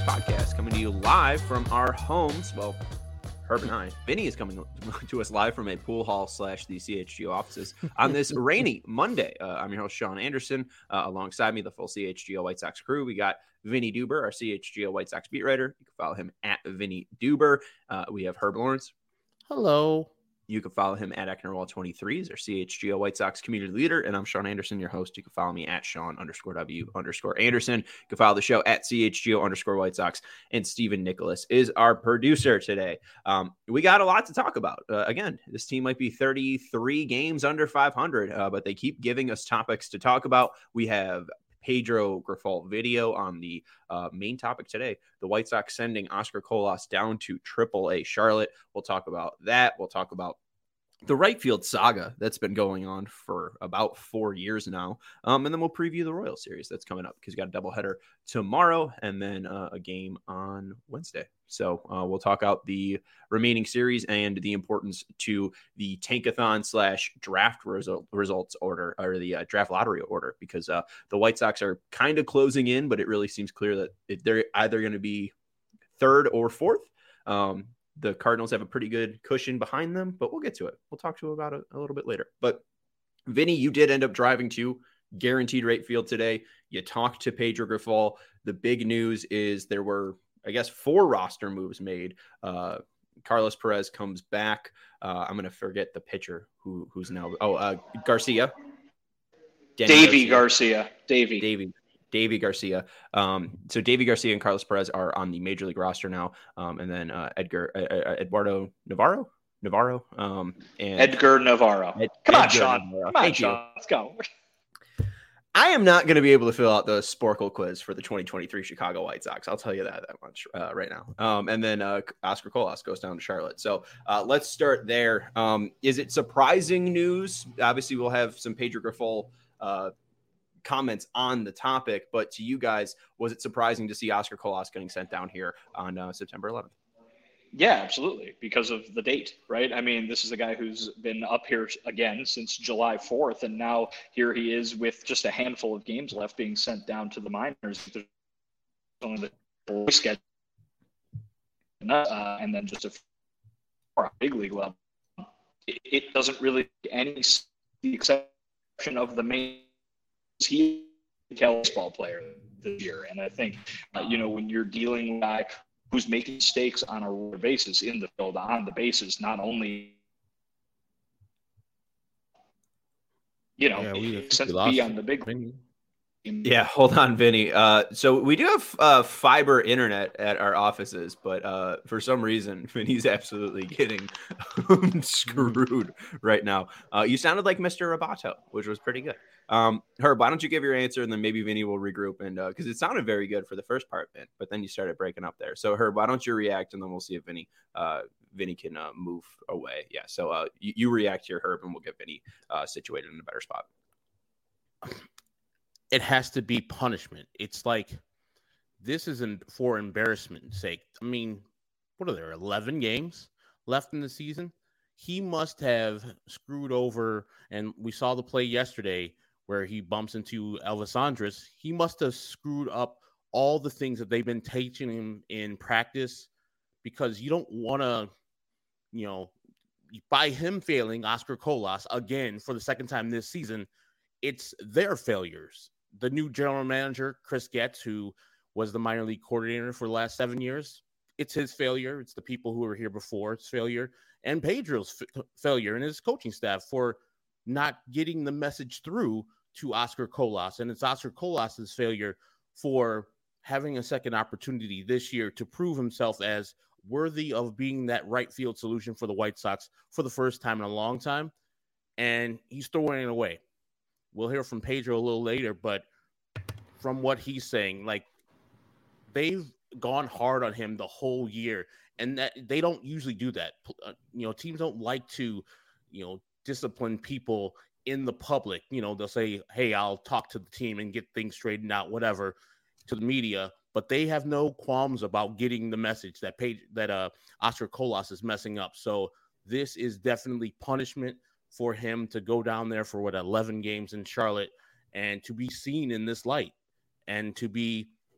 podcast, coming to you live from our homes. Well, Herb and I. Vinny is coming to us live from a pool hall / the CHGO offices on this rainy Monday. I'm your host, Sean Anderson. Alongside me, the full CHGO White Sox crew. We got Vinny Duber, our CHGO White Sox beat writer. You can follow him at Vinny Duber. We have Herb Lawrence. Hello. You can follow him at Ecknerwall23. He's our CHGO White Sox community leader. And I'm Sean Anderson, your host. You can follow me at Sean_W_Anderson. You can follow the show at CHGO_White Sox. And Stephen Nicholas is our producer today. We got a lot to talk about. Again, this team might be 33 games under 500, but they keep giving us topics to talk about. We have Pedro Grifol video on the main topic today, the White Sox sending Oscar Colas down to AAA Charlotte. We'll talk about that. We'll talk about the right field saga that's been going on for about 4 years now. And then we'll preview the Royal Series that's coming up because you got a doubleheader tomorrow and then a game on Wednesday. So we'll talk out the remaining series and the importance to the Tankathon / draft results order, or the draft lottery order, because the White Sox are kind of closing in, but it really seems clear that they're either going to be third or fourth. The Cardinals have a pretty good cushion behind them, but we'll get to it. We'll talk to you about it a little bit later. But Vinny, you did end up driving to Guaranteed Rate Field today. You talked to Pedro Grifol. The big news is there were, I guess, 4 roster moves made. Carlos Perez comes back. I'm going to forget the pitcher who's now. Garcia. Davy Garcia. Davy Garcia. So Davy Garcia and Carlos Perez are on the major league roster now. And then Eduardo Navarro. And Edgar Navarro. Come on, Sean. Let's go. I am not going to be able to fill out the Sporkle quiz for the 2023 Chicago White Sox. I'll tell you that much right now. And then Oscar Colas goes down to Charlotte. So let's start there. Is it surprising news? Obviously, we'll have some Pedro Grifol comments on the topic, but to you guys, was it surprising to see Oscar Colas getting sent down here on September 11th? Yeah, absolutely, because of the date, right? I mean, this is a guy who's been up here again since July 4th, and now here he is with just a handful of games left being sent down to the minors. There's only the schedule, and then just a big league level. It doesn't really any the exception of the main. He's a baseball player this year, and I think when you're dealing with a guy who's making mistakes on a regular basis in the field, on the bases, not only it makes sense to be on the big league. Yeah, hold on, Vinny. So we do have fiber internet at our offices, but for some reason, Vinny's absolutely getting screwed right now. You sounded like Mr. Roboto, which was pretty good. Herb, why don't you give your answer, and then maybe Vinny will regroup, and because it sounded very good for the first part, but then you started breaking up there. So Herb, why don't you react, and then we'll see if Vinny can move away. Yeah, so you react here, Herb, and we'll get Vinny situated in a better spot. It has to be punishment. It's like, this isn't for embarrassment's sake. I mean, what are there, 11 games left in the season? He must have screwed over, and we saw the play yesterday where he bumps into Elvis Andrus. He must have screwed up all the things that they've been teaching him in practice, because you don't want to, by him failing Oscar Colas again for the second time this season, it's their failures. The new general manager, Chris Getz, who was the minor league coordinator for the last 7 years, it's his failure. It's the people who were here before, it's failure. And Pedro's failure and his coaching staff for not getting the message through to Oscar Colas. And it's Oscar Colas' failure for having a second opportunity this year to prove himself as worthy of being that right field solution for the White Sox for the first time in a long time. And he's throwing it away. We'll hear from Pedro a little later, but from what he's saying, like, they've gone hard on him the whole year, and that they don't usually do that. Teams don't like to, discipline people in the public. They'll say, hey, I'll talk to the team and get things straightened out, whatever, to the media, but they have no qualms about getting the message that Oscar Colas is messing up. So this is definitely punishment for him to go down there for 11 games in Charlotte and to be seen in this light and to be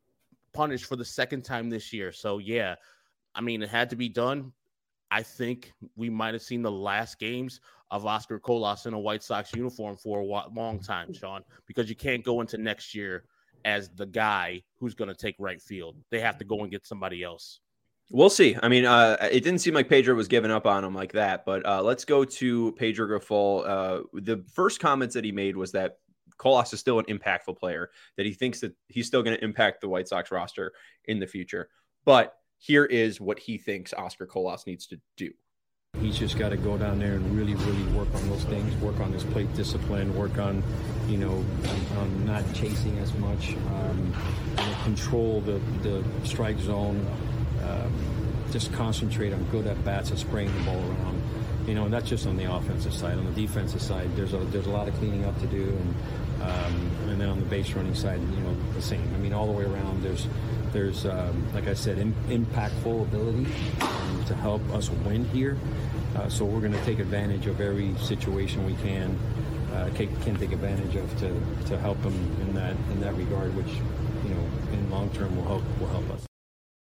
punished for the second time this year. So, yeah, I mean, it had to be done. I think we might have seen the last games of Oscar Colas in a White Sox uniform for a long time, Sean, because you can't go into next year as the guy who's going to take right field. They have to go and get somebody else. We'll see. I mean, it didn't seem like Pedro was giving up on him like that, but let's go to Pedro Grifol. The first comments that he made was that Colas is still an impactful player, that he thinks that he's still going to impact the White Sox roster in the future. But here is what he thinks Oscar Colas needs to do. He's just got to go down there and really, really work on those things, work on his plate discipline, work on, on not chasing as much, control the strike zone, just concentrate on good at-bats and spraying the ball around. And that's just on the offensive side. On the defensive side, there's a lot of cleaning up to do, and then on the base running side, the same. I mean, all the way around, there's like I said, impactful ability to help us win here. So we're going to take advantage of every situation we can take advantage of to help them in that regard, which in long term will help us.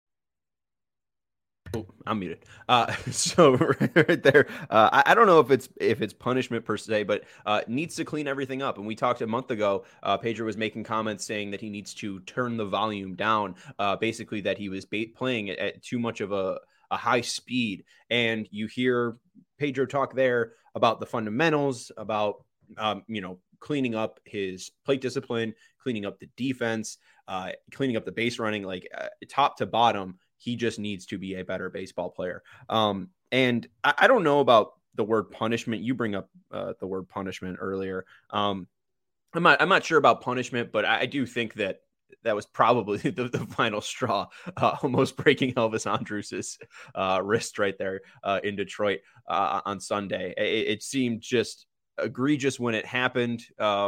Oh, I'm muted. So right there, I don't know if it's punishment per se, but needs to clean everything up. And we talked a month ago, Pedro was making comments saying that he needs to turn the volume down, basically that he was playing at too much of a high speed. And you hear Pedro talk there about the fundamentals, about, cleaning up his plate discipline, cleaning up the defense, cleaning up the base running, like top to bottom. He just needs to be a better baseball player. And I don't know about the word punishment. You bring up the word punishment earlier. I'm not sure about punishment, but I do think that was probably the final straw, almost breaking Elvis Andrus's wrist right there in Detroit on Sunday. It seemed just egregious when it happened.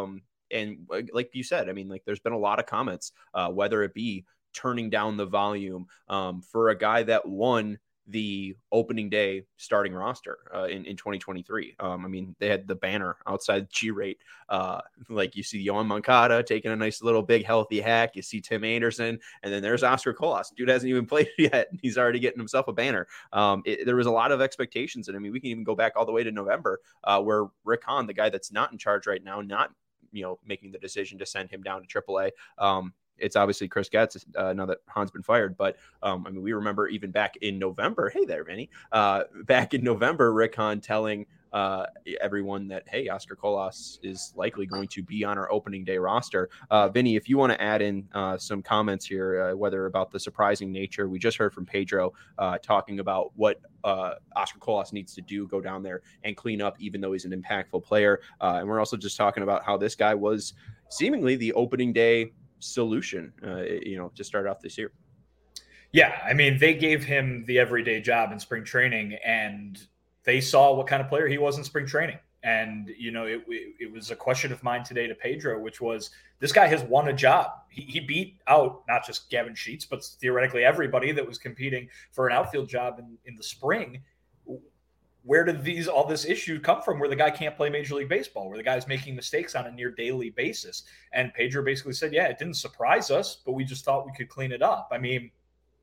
And like you said, I mean, like there's been a lot of comments, whether it be turning down the volume for a guy that won the opening day starting roster in 2023. I mean, they had the banner outside G-Rate. Like you see Yohan Moncada taking a nice little big healthy hack. You see Tim Anderson, and then there's Oscar Colas. Dude hasn't even played yet. He's already getting himself a banner. There was a lot of expectations. And I mean, we can even go back all the way to November where Rick Hahn, the guy that's not in charge right now, not making the decision to send him down to AAA. It's obviously Chris Getz now that Hahn's been fired. But, I mean, we remember even back in November, hey there, Vinny, back in November, Rick Hahn telling everyone that, hey, Oscar Colas is likely going to be on our opening day roster. Vinny, if you want to add in some comments here, whether about the surprising nature, we just heard from Pedro talking about what Oscar Colas needs to do, go down there and clean up, even though he's an impactful player. And we're also just talking about how this guy was seemingly the opening day solution, to start off this year. Yeah, I mean, they gave him the everyday job in spring training, and they saw what kind of player he was in spring training. And, it was a question of mine today to Pedro, which was, this guy has won a job. He beat out not just Gavin Sheets, but theoretically everybody that was competing for an outfield job in the spring. Where did all this issue come from where the guy can't play Major League Baseball, where the guy's making mistakes on a near daily basis? And Pedro basically said, yeah, it didn't surprise us, but we just thought we could clean it up. I mean,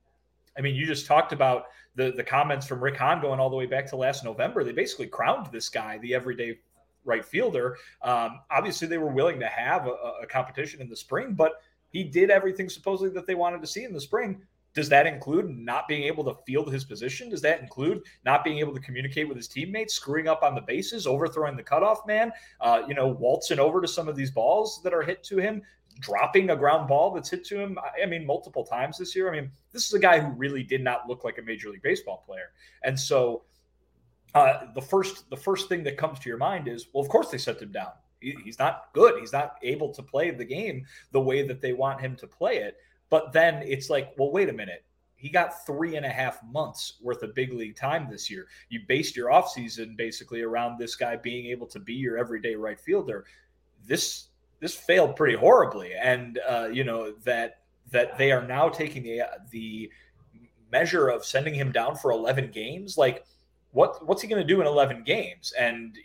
you just talked about the comments from Rick Hahn going all the way back to last November. They basically crowned this guy the everyday right fielder. Obviously, they were willing to have a competition in the spring, but he did everything supposedly that they wanted to see in the spring. Does that include not being able to field his position? Does that include not being able to communicate with his teammates, screwing up on the bases, overthrowing the cutoff man, waltzing over to some of these balls that are hit to him, dropping a ground ball that's hit to him, I mean, multiple times this year? I mean, this is a guy who really did not look like a Major League Baseball player. And so the first thing that comes to your mind is, well, of course they sent him down. He's not good. He's not able to play the game the way that they want him to play it. But then it's like, well, wait a minute. He got 3.5 months worth of big league time this year. You based your offseason basically around this guy being able to be your everyday right fielder. This failed pretty horribly. And, that they are now taking the measure of sending him down for 11 games. Like, what's he going to do in 11 games? And,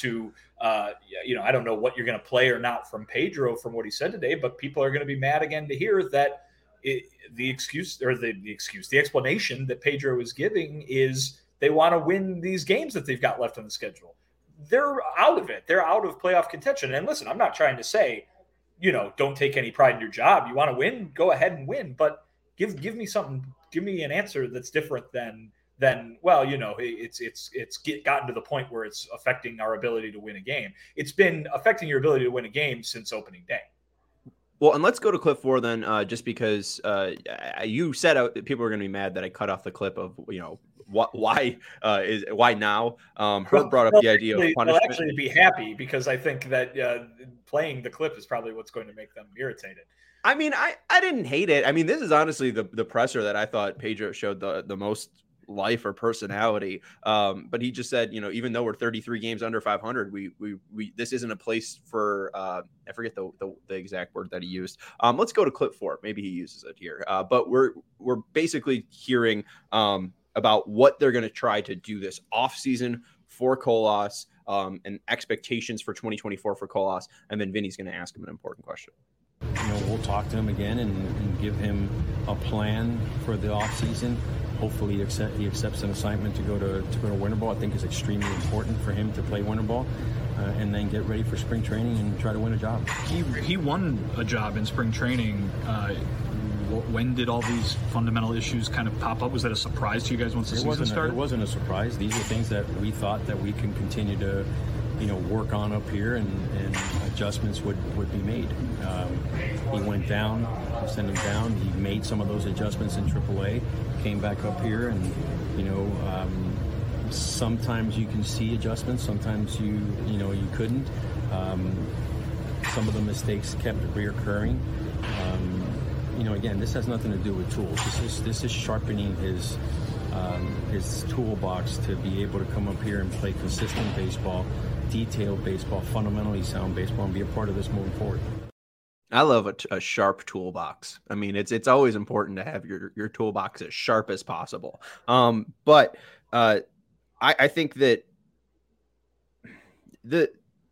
I don't know what you're going to play or not from Pedro from what he said today, but people are going to be mad again to hear that the explanation that Pedro is giving is they want to win these games that they've got left on the schedule. They're out of it. They're out of playoff contention. And listen, I'm not trying to say, don't take any pride in your job. You want to win, go ahead and win. But give me something. Give me an answer that's different than well, it's gotten to the point where it's affecting our ability to win a game. It's been affecting your ability to win a game since opening day. Well, and let's go to clip 4 then, just because you said people were going to be mad that I cut off the clip of, why now? Herb brought up the idea of punishment. They'll actually be happy because I think that playing the clip is probably what's going to make them irritated. I mean, I didn't hate it. I mean, this is honestly the presser that I thought Pedro showed the most life or personality. But he just said, even though we're 33 games under 500, we this isn't a place for I forget the exact word that he used. Let's go to clip 4. Maybe he uses it here. But we're basically hearing about what they're going to try to do this offseason for Colas, and expectations for 2024 for Colas. And then Vinny's going to ask him an important question. We'll talk to him again and give him a plan for the offseason. Hopefully he accepts an assignment to go to winter ball. I think is extremely important for him to play winter ball, and then get ready for spring training and try to win a job. He won a job in spring training. When did all these fundamental issues kind of pop up? Was that a surprise to you guys once the season started? It wasn't a surprise. These are things that we thought that we can continue to work on up here, and adjustments would be made. He went down, sent him down. He made some of those adjustments in AAA, came back up here, and sometimes you can see adjustments, sometimes you couldn't. Some of the mistakes kept reoccurring. Again, this has nothing to do with tools. This is sharpening his toolbox to be able to come up here and play consistent baseball, detailed baseball, fundamentally sound baseball, and be a part of this moving forward. I love a sharp toolbox. I mean, it's always important to have your toolbox as sharp as possible. But I think that the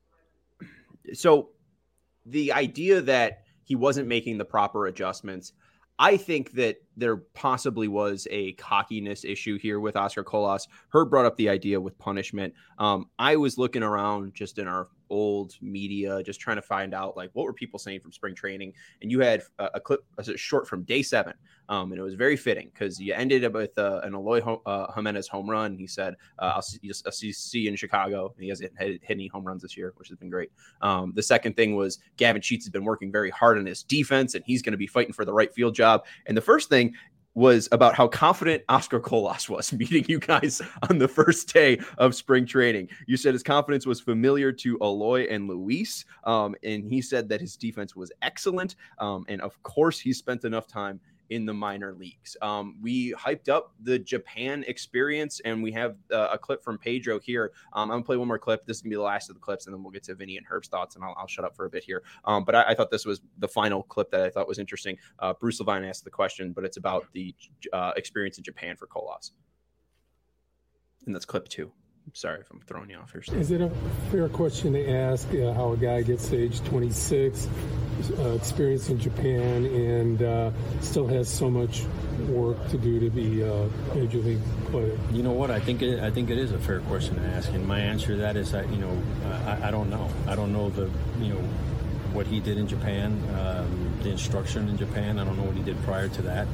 idea that he wasn't making the proper adjustments, I think that there possibly was a cockiness issue here with Oscar Colas. Herb brought up the idea with punishment. I was looking around just in our old media, just trying to find out what were people saying from spring training. And you had a clip, a short from day 7. And it was very fitting because you ended up with an Eloy Jimenez home run. He said, I'll see you in Chicago. And he hasn't hit any home runs this year, which has been great. The second thing was Gavin Sheets has been working very hard on his defense, and he's going to be fighting for the right field job. And the first thing was about how confident Oscar Colas was meeting you guys on the first day of spring training. You said his confidence was familiar to Eloy and Luis, and he said that his defense was excellent. And of course, he spent enough time in the minor leagues. We hyped up the Japan experience, and we have a clip from Pedro here. I'm going to play one more clip. This is going to be the last of the clips, and then we'll get to Vinny and Herb's thoughts, and I'll shut up for a bit here. But I thought this was the final clip that I thought was interesting. Bruce Levine asked the question, but it's about the experience in Japan for Colas. And that's clip 2. Sorry if I'm throwing you off here, Steve. Is it a fair question to ask how a guy gets to age 26, experience in Japan, and still has so much work to do to be a major league player? You know what? I think it is a fair question to ask, and my answer to that is I don't know. I don't know what he did in Japan, the instruction in Japan. I don't know what he did prior to that.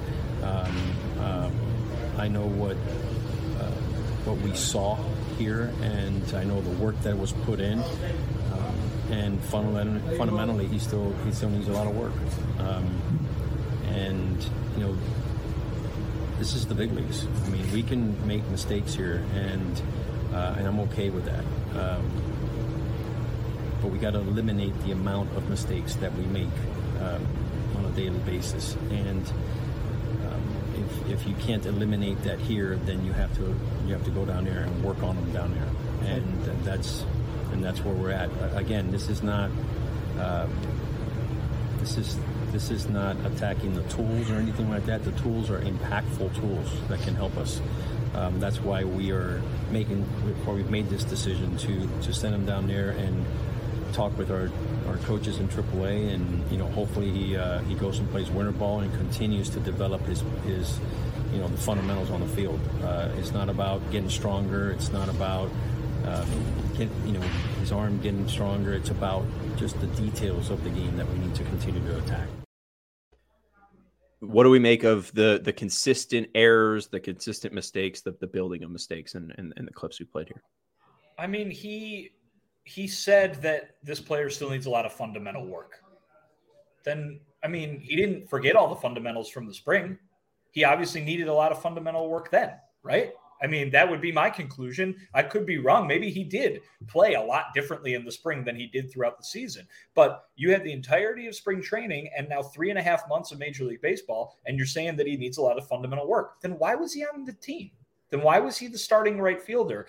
I know what we saw here, and I know the work that was put in, and fundamentally he still needs a lot of work, and this is the big leagues. I mean, we can make mistakes here, and I'm okay with that, but we got to eliminate the amount of mistakes that we make on a daily basis, and if you can't eliminate that here, then you have to go down there and work on them down there, and that's where we're at. Again, this is not attacking the tools or anything like that. The tools are impactful tools that can help us. That's why we've made this decision to send them down there and talk with our coaches in AAA, and hopefully he goes and plays winter ball and continues to develop his the fundamentals on the field. It's not about getting stronger. It's not about his arm getting stronger. It's about just the details of the game that we need to continue to attack. What do we make of the consistent errors, the consistent mistakes, the building of mistakes, and the clips we played here? I mean, he said that this player still needs a lot of fundamental work. Then, I mean, he didn't forget all the fundamentals from the spring. He obviously needed a lot of fundamental work then, right? I mean, that would be my conclusion. I could be wrong. Maybe he did play a lot differently in the spring than he did throughout the season. But you had the entirety of spring training and now 3.5 months of Major League Baseball, and you're saying that he needs a lot of fundamental work. Then why was he on the team? Then why was he the starting right fielder?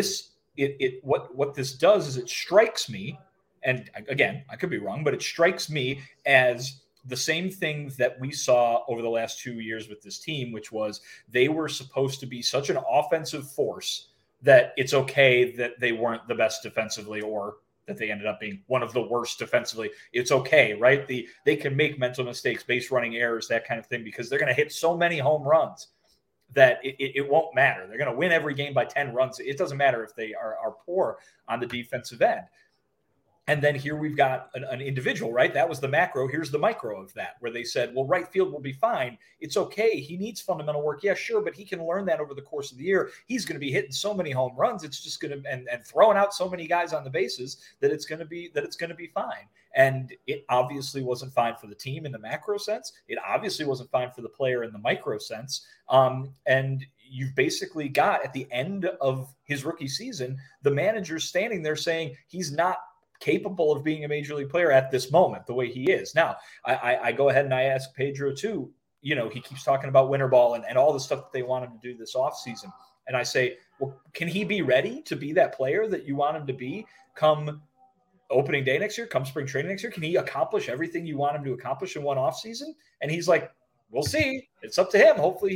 What this does is it strikes me, and again, I could be wrong, but it strikes me as the same thing that we saw over the last 2 years with this team, which was they were supposed to be such an offensive force that it's okay that they weren't the best defensively or that they ended up being one of the worst defensively. It's okay, right? They can make mental mistakes, base running errors, that kind of thing, because they're going to hit so many home runs that it won't matter. They're going to win every game by 10 runs. It doesn't matter if they are poor on the defensive end. And then here we've got an individual, right? That was the macro. Here's the micro of that, where they said, well, right field will be fine. It's okay. He needs fundamental work. Yeah, sure. But he can learn that over the course of the year. He's going to be hitting so many home runs. It's just going to, and throwing out so many guys on the bases that it's going to be fine. And it obviously wasn't fine for the team in the macro sense. It obviously wasn't fine for the player in the micro sense. And you've basically got at the end of his rookie season, the manager standing there saying he's not capable of being a major league player at this moment, the way he is. Now, I go ahead and I ask Pedro too, he keeps talking about winter ball and all the stuff that they want him to do this offseason. And I say, well, can he be ready to be that player that you want him to be come opening day next year, come spring training next year? Can he accomplish everything you want him to accomplish in one offseason? And he's like, we'll see. It's up to him. Hopefully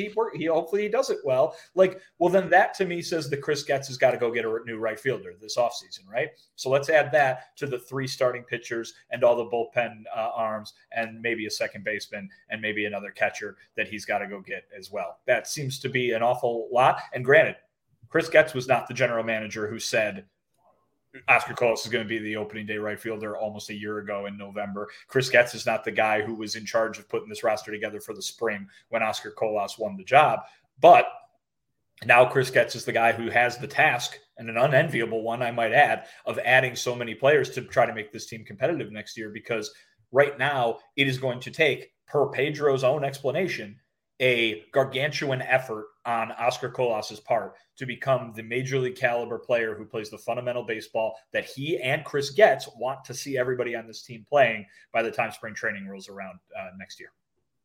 he does it well. Well, then that to me says that Chris Getz has got to go get a new right fielder this offseason, right? So let's add that to the 3 starting pitchers and all the bullpen arms and maybe a second baseman and maybe another catcher that he's got to go get as well. That seems to be an awful lot. And granted, Chris Getz was not the general manager who said Oscar Colas is going to be the opening day right fielder almost a year ago in November. Chris Getz is not the guy who was in charge of putting this roster together for the spring when Oscar Colas won the job. But now Chris Getz is the guy who has the task, and an unenviable one, I might add, of adding so many players to try to make this team competitive next year, because right now it is going to take, per Pedro's own explanation, a gargantuan effort on Oscar Colas's part to become the major league caliber player who plays the fundamental baseball that he and Chris Getz want to see everybody on this team playing by the time spring training rolls around next year.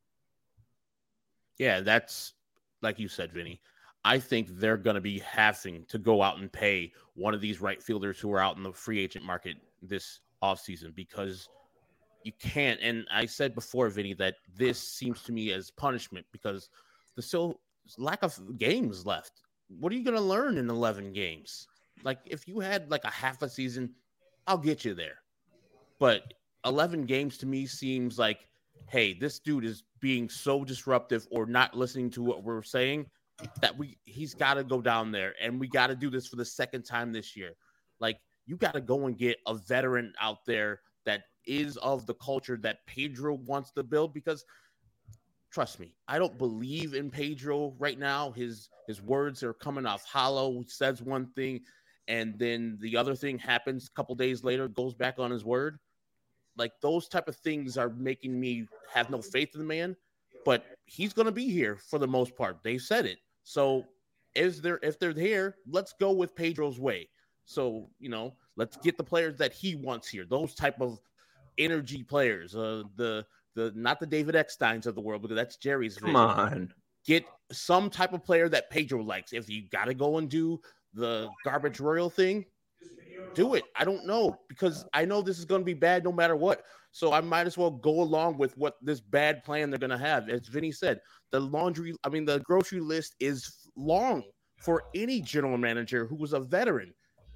Yeah, that's like you said, Vinny. I think they're going to be having to go out and pay one of these right fielders who are out in the free agent market this offseason, because you can't. And I said before, Vinny, that this seems to me as punishment because there's still lack of games left. What are you going to learn in 11 games? Like, if you had like a half a season, I'll get you there. But 11 games to me seems like, hey, this dude is being so disruptive or not listening to what we're saying that he's got to go down there, and we got to do this for the second time this year. Like, you got to go and get a veteran out there that is of the culture that Pedro wants to build, because trust me, I don't believe in Pedro right now. His words are coming off hollow. He says one thing, and then the other thing happens a couple days later, goes back on his word. Like, those type of things are making me have no faith in the man, but he's going to be here for the most part. They said it. So if they're here, let's go with Pedro's way. So, let's get the players that he wants here. Those type of energy players, the not the David Ecksteins of the world, because that's Jerry's vision. Come on. Get some type of player that Pedro likes. If you got to go and do the garbage royal thing, do it. I don't know, because I know this is going to be bad no matter what. So I might as well go along with what this bad plan they're going to have. As Vinny said, the grocery list is long for any general manager who was a veteran.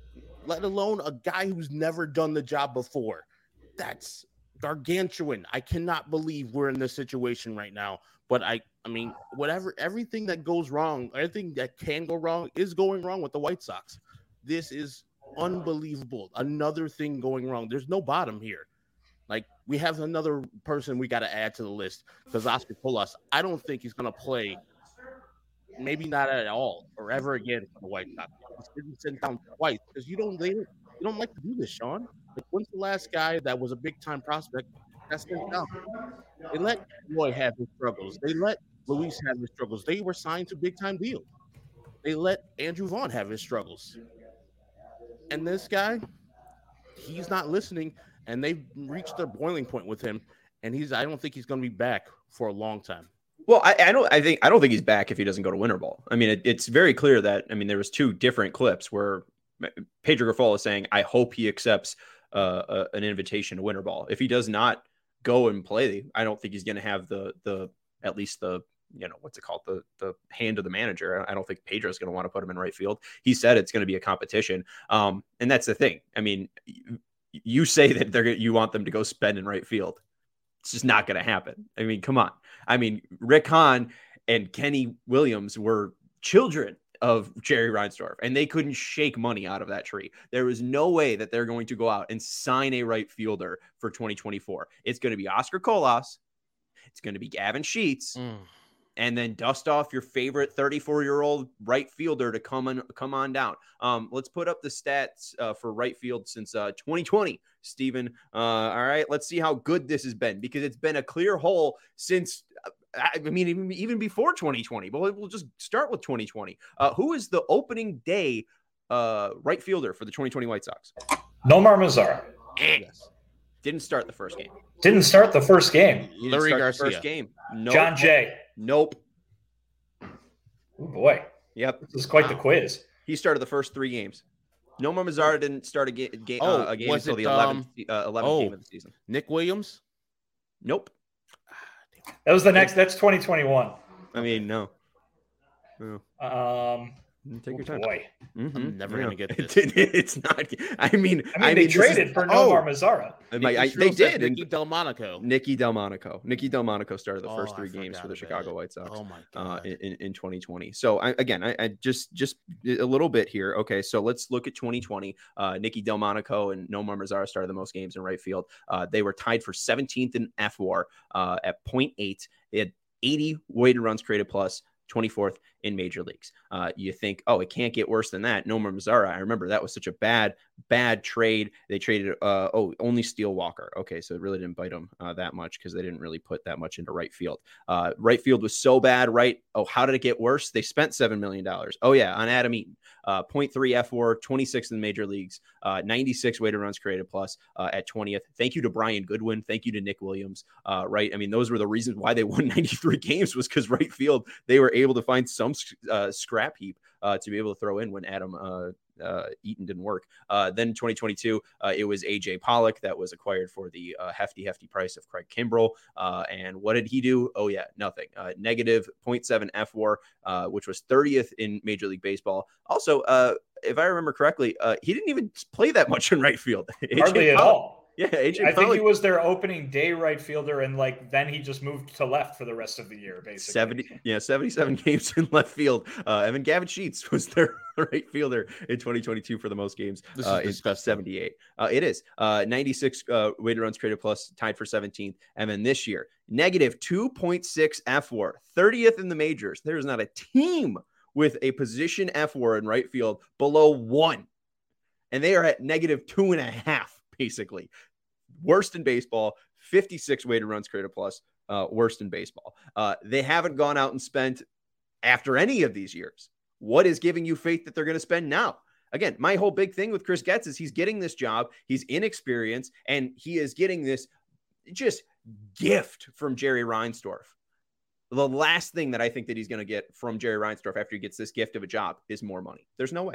let alone a guy who's never done the job before. That's gargantuan. I cannot believe we're in this situation right now. But I mean, everything that goes wrong, everything that can go wrong is going wrong with the White Sox. This is unbelievable. Another thing going wrong. There's no bottom here. Like, we have another person we got to add to the list because Oscar Colas, I don't think he's going to play, maybe not at all or ever again for the White Sox. He's been sent down twice because you don't like to do this, Sean. Like, when's the last guy that was a big-time prospect that's sent down? They let Roy have his struggles. They let Luis have his struggles. They were signed to big-time deals. They let Andrew Vaughn have his struggles. And this guy, he's not listening, and they've reached their boiling point with him, and I don't think he's going to be back for a long time. Well, I don't think he's back if he doesn't go to Winter Ball. I mean, it's very clear that, I mean, there was 2 different clips where Pedro Grifol is saying, I hope he accepts an invitation to Winter Ball. If he does not go and play, I don't think he's going to have the at least the, what's it called? The hand of the manager. I don't think Pedro's going to want to put him in right field. He said it's going to be a competition. And that's the thing. I mean, you say that you want them to go spend in right field. It's just not going to happen. I mean, come on. I mean, Rick Hahn and Kenny Williams were children of Jerry Reinsdorf, and they couldn't shake money out of that tree. There was no way that they're going to go out and sign a right fielder for 2024. It's going to be Oscar Colas. It's going to be Gavin Sheets. And then dust off your favorite 34-year-old right fielder to come on down. Let's put up the stats for right field since 2020, Steven. All right, let's see how good this has been, because it's been a clear hole since, I mean, even before 2020. But we'll just start with 2020. Who is the opening day right fielder for the 2020 White Sox? Nomar Mazara. Yes. Didn't start the first game. Didn't start the first game. Larry Garcia. First game. Nope. John Jay. Nope. Oh boy. Yep. This is quite the quiz. He started the first 3 games. Nomar Mazara didn't start a game until the 11th game of the season. Nick Williams? Nope. That was that's 2021. I mean, no. Take your time. Boy. I'm never going to get this. It's not. I mean, they traded for Nomar Mazara. They did. Nicky Delmonico. Nicky Delmonico started the first 3 games for the Chicago White Sox. Oh my God. In 2020. So I just a little bit here. Okay, so let's look at 2020. Nicky Delmonico and Nomar Mazara started the most games in right field. They were tied for 17th in FWAR at 0.8. They had 80 weighted runs created plus, 24th in major leagues. You think, it can't get worse than that. Nomar Mazara, I remember that was such a bad trade. They traded, only Steele Walker. Okay, so it really didn't bite them that much because they didn't really put that much into right field. Right field was so bad, right? Oh, how did it get worse? They spent $7 million. Oh, yeah, on Adam Eaton. 0.3 FWAR, 26th in the major leagues, 96 weighted runs created plus at 20th. Thank you to Brian Goodwin. Thank you to Nick Williams. Right? I mean, those were the reasons why they won 93 games, was because right field, they were able to find some scrap heap to be able to throw in when Adam Eaton didn't work. Then 2022, it was AJ Pollock that was acquired for the hefty price of Craig Kimbrell. And what did he do? Oh yeah, nothing. Negative 0.7 FWAR, which was 30th in Major League Baseball. Also, if I remember correctly, he didn't even play that much in right field. Hardly at all. Yeah, AJ I think he was their opening day right fielder, and then he just moved to left for the rest of the year, basically. 77 games in left field. Evan Gavin Sheets was their right fielder in 2022 for the most games. This is disgusting. 78. It is 96 weighted runs created plus, tied for 17th, and then this year negative 2.6 FWAR, 30th in the majors. There is not a team with a position FWAR in right field below 1, and they are at negative 2.5. Basically, worst in baseball, 56 weighted runs created plus, worst in baseball. They haven't gone out and spent after any of these years. What is giving you faith that they're going to spend now? Again, my whole big thing with Chris Getz is he's getting this job, he's inexperienced, and he is getting this just gift from Jerry Reinsdorf. The last thing that I think that he's going to get from Jerry Reinsdorf after he gets this gift of a job is more money. There's no way.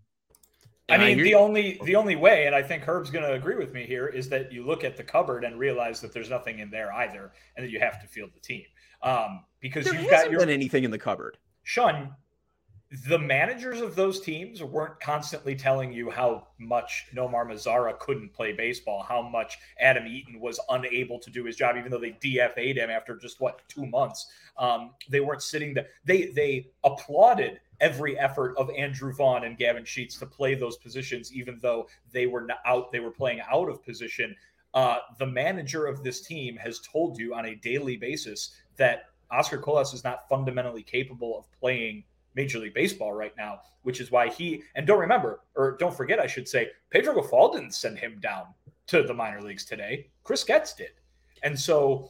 I mean, the only way, and I think Herb's going to agree with me here, is that you look at the cupboard and realize that there's nothing in there either, and that you have to field the team. Because there hasn't been anything in the cupboard. Sean, the managers of those teams weren't constantly telling you how much Nomar Mazara couldn't play baseball, how much Adam Eaton was unable to do his job, even though they DFA'd him after just 2 months. They weren't sitting there. They applauded every effort of Andrew Vaughn and Gavin Sheets to play those positions, even though they were playing out of position. The manager of this team has told you on a daily basis that Oscar Colas is not fundamentally capable of playing Major League Baseball right now, which is why don't forget, I should say, Pedro Grifol didn't send him down to the minor leagues today. Chris Getz did. And so,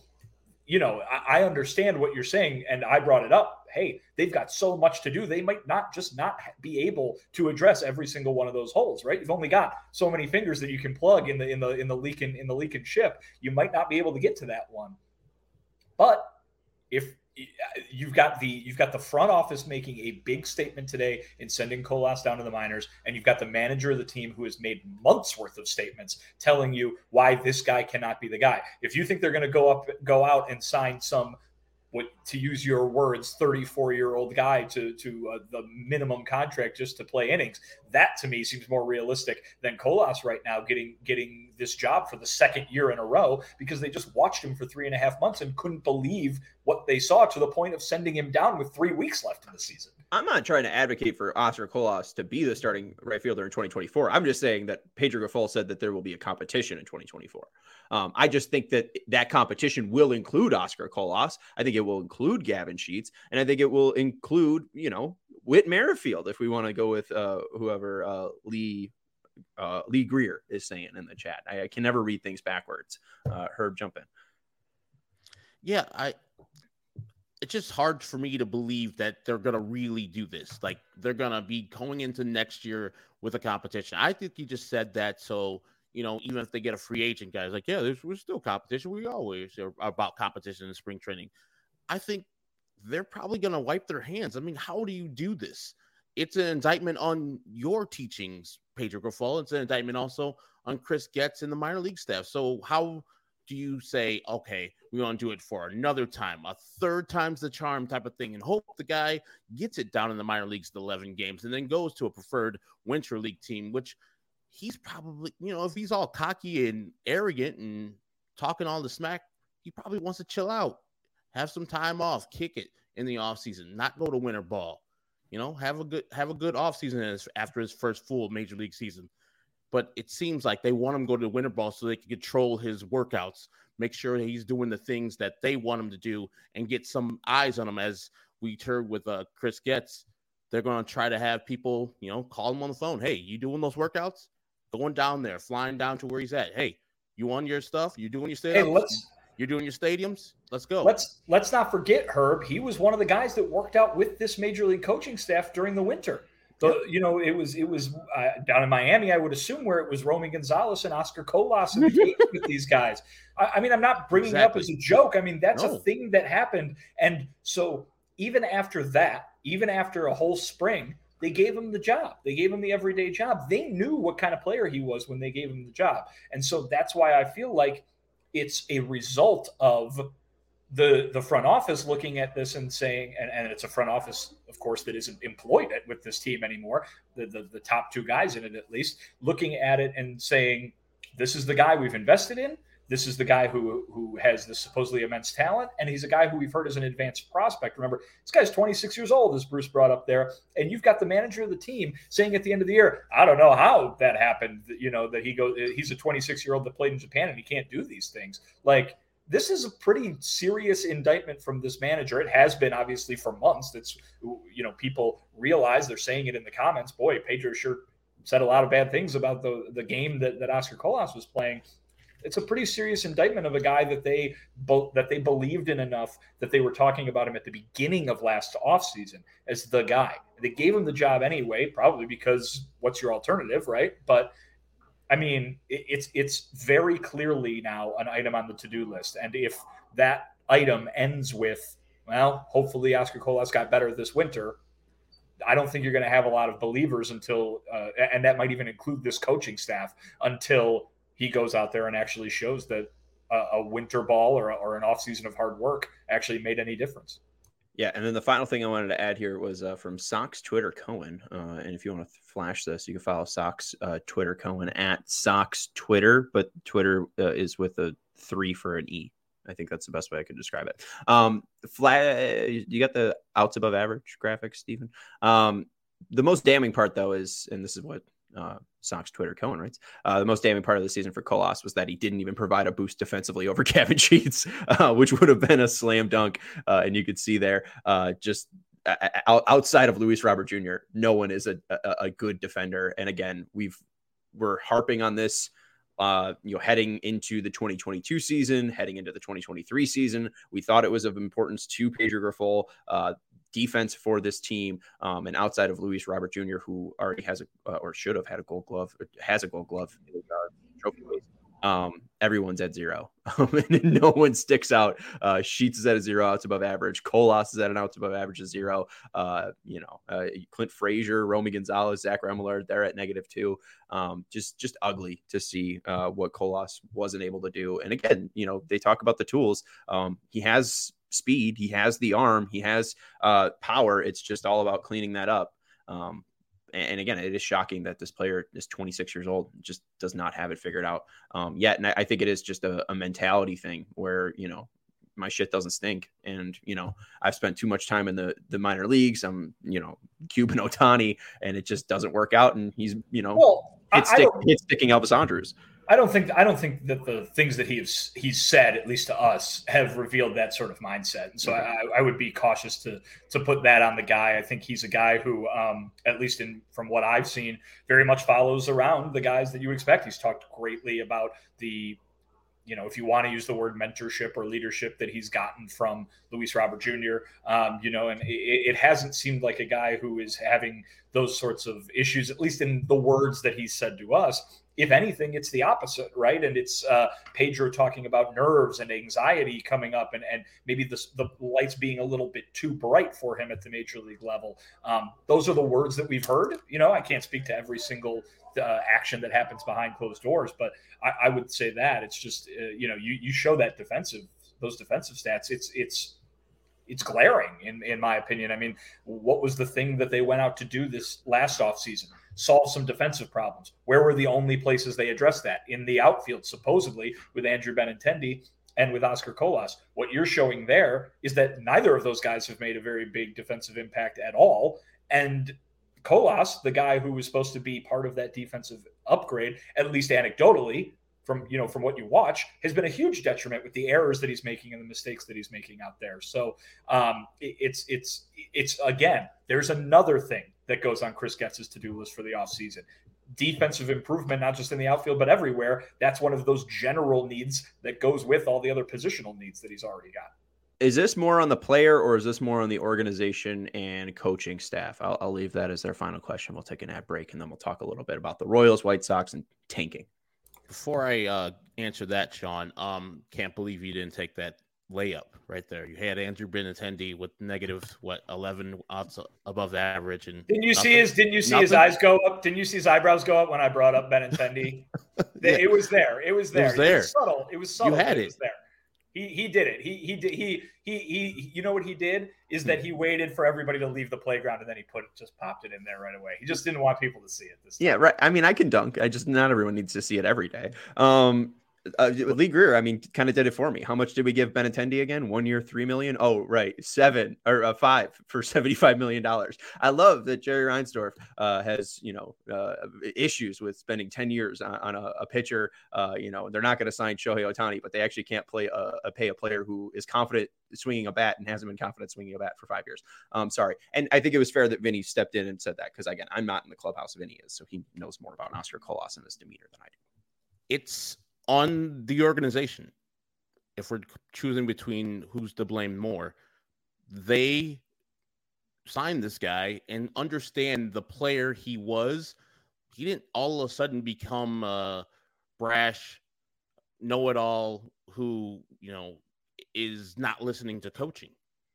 I understand what you're saying, and I brought it up. Hey, they've got so much to do. They might not be able to address every single one of those holes, right? You've only got so many fingers that you can plug in the leaking ship. You might not be able to get to that one. But if you've got the front office making a big statement today in sending Colas down to the minors, and you've got the manager of the team who has made months worth of statements telling you why this guy cannot be the guy. If you think they're going to go out and sign some, to use your words, 34-year-old guy to the minimum contract just to play innings, that to me seems more realistic than Colas right now getting this job for the second year in a row, because they just watched him for 3.5 months and couldn't believe what they saw, to the point of sending him down with 3 weeks left in the season. I'm not trying to advocate for Oscar Colas to be the starting right fielder in 2024. I'm just saying that Pedro Grifol said that there will be a competition in 2024. I just think that competition will include Oscar Colas. I think it will include Gavin Sheets, and I think it will include, Whit Merrifield, if we want to go with whoever Lee Greer is saying in the chat. I can never read things backwards. Herb, jump in. Yeah, it's just hard for me to believe that they're going to really do this. Like, they're going to be going into next year with a competition. I think you just said that. So, even if they get a free agent, guys, like, yeah, we're still competition. We always are about competition in spring training. I think they're probably going to wipe their hands. I mean, how do you do this? It's an indictment on your teachings, Pedro Grifol. It's an indictment also on Chris Getz and the minor league staff. So how do you say, okay, we want to do it for another time, a third time's the charm type of thing, and hope the guy gets it down in the minor leagues to 11 games and then goes to a preferred winter league team, which he's probably, if he's all cocky and arrogant and talking all the smack, he probably wants to chill out, have some time off, kick it in the offseason, not go to winter ball, have a good offseason after his first full major league season. But it seems like they want him to go to winter ball so they can control his workouts, make sure that he's doing the things that they want him to do, and get some eyes on him. As we heard with Chris Getz, they're going to try to have people, call him on the phone. Hey, you doing those workouts? Going down there, flying down to where he's at. Hey, you on your stuff? You doing your stadiums? You're doing your stadiums? Let's go. Let's not forget, Herb. He was one of the guys that worked out with this major league coaching staff during the winter. So, it was down in Miami, I would assume, where it was Romy Gonzalez and Oscar Colas and with these guys. I mean, I'm not bringing it up as a joke. I mean, that's a thing that happened. And so even after a whole spring, they gave him the job. They gave him the everyday job. They knew what kind of player he was when they gave him the job. And so that's why I feel like it's a result of the front office looking at this and saying, and it's a front office, of course, that isn't employed with this team anymore, the top two guys in it at least, looking at it and saying, this is the guy we've invested in. This is the guy who has this supposedly immense talent, and he's a guy who we've heard is an advanced prospect. Remember, this guy's 26 years old, as Bruce brought up there, and you've got the manager of the team saying at the end of the year, I don't know how that happened, that he's a 26-year-old that played in Japan and he can't do these things. Like, this is a pretty serious indictment from this manager. It has been, obviously, for months. That's, people realize, they're saying it in the comments. Boy, Pedro sure said a lot of bad things about the game that Oscar Colas was playing. It's a pretty serious indictment of a guy that they believed in enough that they were talking about him at the beginning of last offseason as the guy. They gave him the job anyway, probably because what's your alternative, right? But I mean, it's very clearly now an item on the to-do list. And if that item ends with, well, hopefully Oscar Colas got better this winter, I don't think you're going to have a lot of believers until, and that might even include this coaching staff, until he goes out there and actually shows that a winter ball or an offseason of hard work actually made any difference. Yeah, and then the final thing I wanted to add here was from Sox Twitter Cohen. And if you want to flash this, you can follow Sox Twitter Cohen at Sox Twitter, but Twitter is with a 3 for an E. I think that's the best way I could describe it. You got the outs above average graphic, Stephen. The most damning part, though, is, and this is what Sox Twitter Cohen writes, the most damning part of the season for Colas was that he didn't even provide a boost defensively over Kevin Sheets, which would have been a slam dunk. And you could see there, just outside of Luis Robert Jr., no one is a good defender. And again, we're harping on this. Heading into the 2022 season, heading into the 2023 season, we thought it was of importance to Pedro Grifol, defense for this team. And outside of Luis Robert Jr., who already has or should have had a Gold Glove, has a Gold Glove trophy case, everyone's at 0. And no one sticks out. Sheets is at a 0, outs above average. Colas is at an outs above average of 0. Clint Frazier, Romy Gonzalez, Zach Remillard, they're at -2. Just ugly to see what Colas wasn't able to do. And again, they talk about the tools. He has speed, he has the arm, he has power. It's just all about cleaning that up. And again, it is shocking that this player is 26 years old, just does not have it figured out yet. And I think it is just a mentality thing where, my shit doesn't stink. And, I've spent too much time in the minor leagues. I'm, Cuban Ohtani, and it just doesn't work out. And he's, it's sticking Elvis Andrus. I don't think that the things that he's said, at least to us, have revealed that sort of mindset. And so I would be cautious to put that on the guy. I think he's a guy who, at least from what I've seen, very much follows around the guys that you expect. He's talked greatly about the, if you want to use the word mentorship or leadership that he's gotten from Luis Robert Jr., and it hasn't seemed like a guy who is having those sorts of issues, at least in the words that he's said to us. If anything, it's the opposite, right? And it's Pedro talking about nerves and anxiety coming up and maybe the lights being a little bit too bright for him at the major league level. Those are the words that we've heard. I can't speak to every single action that happens behind closed doors, but I would say that it's just, you show those defensive stats. It's glaring in my opinion. I mean, what was the thing that they went out to do this last offseason? Solve some defensive problems. Where were the only places they addressed that? In the outfield, supposedly, with Andrew Benintendi and with Oscar Colas. What you're showing there is that neither of those guys have made a very big defensive impact at all. And Colas, the guy who was supposed to be part of that defensive upgrade, at least anecdotally, from what you watch, has been a huge detriment with the errors that he's making and the mistakes that he's making out there. So it's again, there's another thing that goes on Chris Getz's to-do list for the offseason. Defensive improvement, not just in the outfield, but everywhere. That's one of those general needs that goes with all the other positional needs that he's already got. Is this more on the player or is this more on the organization and coaching staff? I'll leave that as their final question. We'll take an ad break and then we'll talk a little bit about the Royals, White Sox, and tanking. Before I answer that, Sean, can't believe you didn't take that layup right there. You had Andrew Benintendi with -11 outs above average, and didn't you see his eyes go up? Didn't you see his eyebrows go up when I brought up Benintendi? Yeah. It was there. It was there. It was subtle. It was subtle. You had it was there. He did it. He did. He you know what he did is that he waited for everybody to leave the playground and then he just popped it in there right away. He just didn't want people to see it this time. Yeah, right. I mean, I can dunk. Not everyone needs to see it every day. Lee Greer, kind of did it for me. How much did we give Benintendi again? 1 year, $3 million. Oh, right. 5 for $75 million. I love that Jerry Reinsdorf has, issues with spending 10 years on a pitcher. They're not going to sign Shohei Ohtani, but they actually can't pay a player who is confident swinging a bat and hasn't been confident swinging a bat for 5 years. Sorry. And I think it was fair that Vinny stepped in and said that because, again, I'm not in the clubhouse. Vinny is, so he knows more about Oscar Colas and his demeanor than I do. It's on the organization. If we're choosing between who's to blame more, they signed this guy and understand the player he was. He didn't all of a sudden become a brash know-it-all who, is not listening to coaching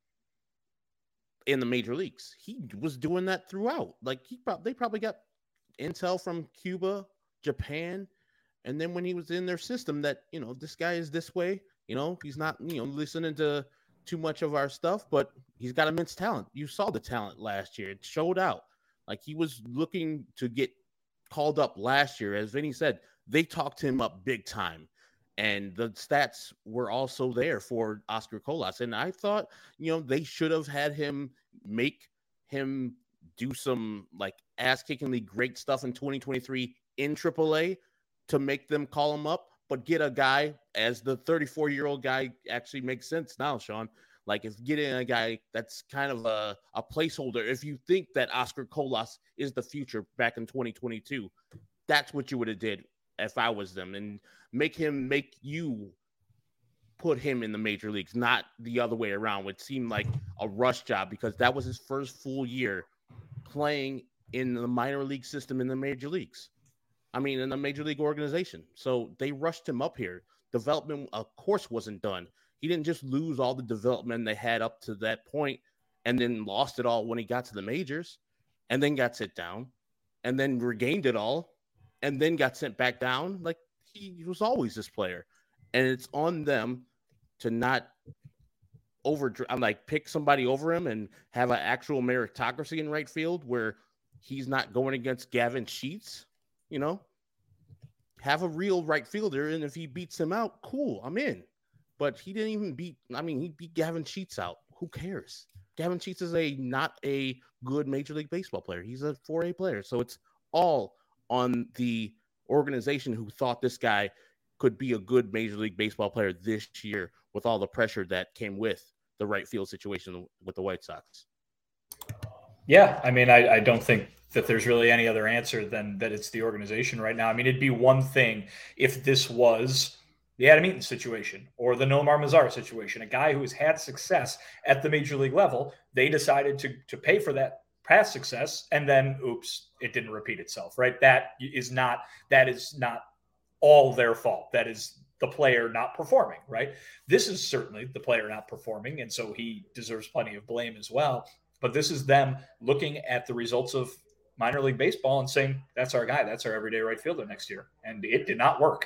in the major leagues. He was doing that throughout. Like they probably got intel from Cuba, Japan. And then when he was in their system that, this guy is this way, he's not, listening to too much of our stuff, but he's got immense talent. You saw the talent last year. It showed out. Like, he was looking to get called up last year. As Vinny said, they talked him up big time. And the stats were also there for Oscar Colas. And I thought, they should have had him make him do some like ass-kickingly great stuff in 2023 in AAA to make them call him up, but get a guy, as the 34-year-old guy actually makes sense now, Sean. Like, if getting a guy that's kind of a placeholder, if you think that Oscar Colas is the future back in 2022, that's what you would have did if I was them, and make you put him in the major leagues, not the other way around, which seemed like a rush job because that was his first full year playing in the minor league system in the major leagues. I mean, in the major league organization. So they rushed him up here. Development, of course, wasn't done. He didn't just lose all the development they had up to that point and then lost it all when he got to the majors and then got sent down and then regained it all and then got sent back down. Like, he was always this player. And it's on them to not pick somebody over him and have an actual meritocracy in right field where he's not going against Gavin Sheets, Have a real right fielder, and if he beats him out, cool, I'm in. But he didn't even he beat Gavin Sheets out. Who cares? Gavin Sheets is not a good Major League Baseball player. He's a 4A player. So it's all on the organization who thought this guy could be a good Major League Baseball player this year with all the pressure that came with the right field situation with the White Sox. Yeah, I mean, I don't think that there's really any other answer than that it's the organization right now. I mean, it'd be one thing if this was the Adam Eaton situation or the Nomar Mazara situation, a guy who has had success at the major league level. They decided to pay for that past success, and then, oops, it didn't repeat itself, right? That is not all their fault. That is the player not performing, right? This is certainly the player not performing, and so he deserves plenty of blame as well. But this is them looking at the results of minor league baseball and saying, that's our guy. That's our everyday right fielder next year. And it did not work.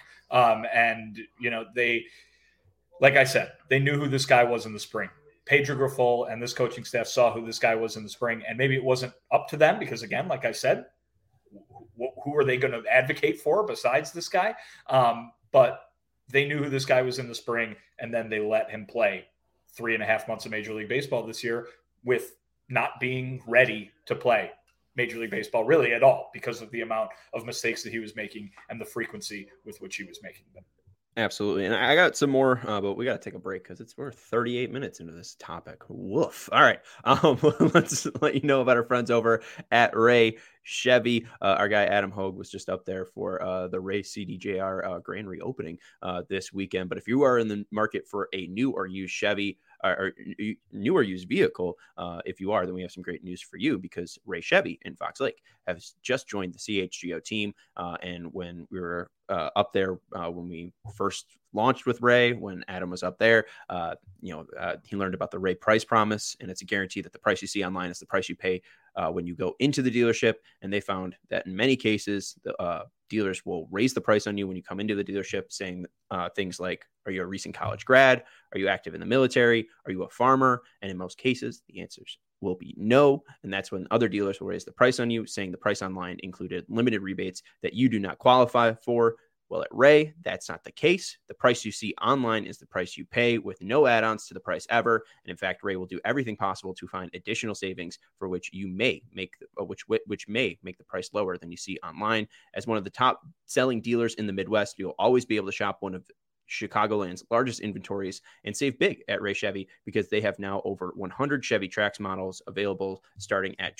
They, like I said, they knew who this guy was in the spring. Pedro Grifol and this coaching staff saw who this guy was in the spring. And maybe it wasn't up to them because, again, like I said, who are they going to advocate for besides this guy? But they knew who this guy was in the spring, and then they let him play 3.5 months of Major League Baseball this year with not being ready to play Major League Baseball really at all because of the amount of mistakes that he was making and the frequency with which he was making them. Absolutely. And I got some more, but we got to take a break because we're 38 minutes into this topic. Woof. All right. Let's let you know about our friends over at Ray Chevy. Our guy Adam Hogue was just up there for the Ray CDJR grand reopening this weekend. But if you are in the market for a new or used Chevy, or new or used vehicle, if you are, then we have some great news for you because Ray Chevy in Fox Lake has just joined the CHGO team. And when we were up there, when we first launched with Ray, when Adam was up there, he learned about the Ray Price Promise, and it's a guarantee that the price you see online is the price you pay when you go into the dealership. And they found that in many cases, the dealers will raise the price on you when you come into the dealership, saying things like, are you a recent college grad? Are you active in the military? Are you a farmer? And in most cases, the answers will be no. And that's when other dealers will raise the price on you, saying the price online included limited rebates that you do not qualify for. Well, at Ray, that's not the case. The price you see online is the price you pay with no add-ons to the price ever. And in fact, Ray will do everything possible to find additional savings for which you may make which may make the price lower than you see online. As one of the top selling dealers in the Midwest, you'll always be able to shop one of Chicagoland's largest inventories and save big at Ray Chevy because they have now over 100 Chevy Trax models available starting at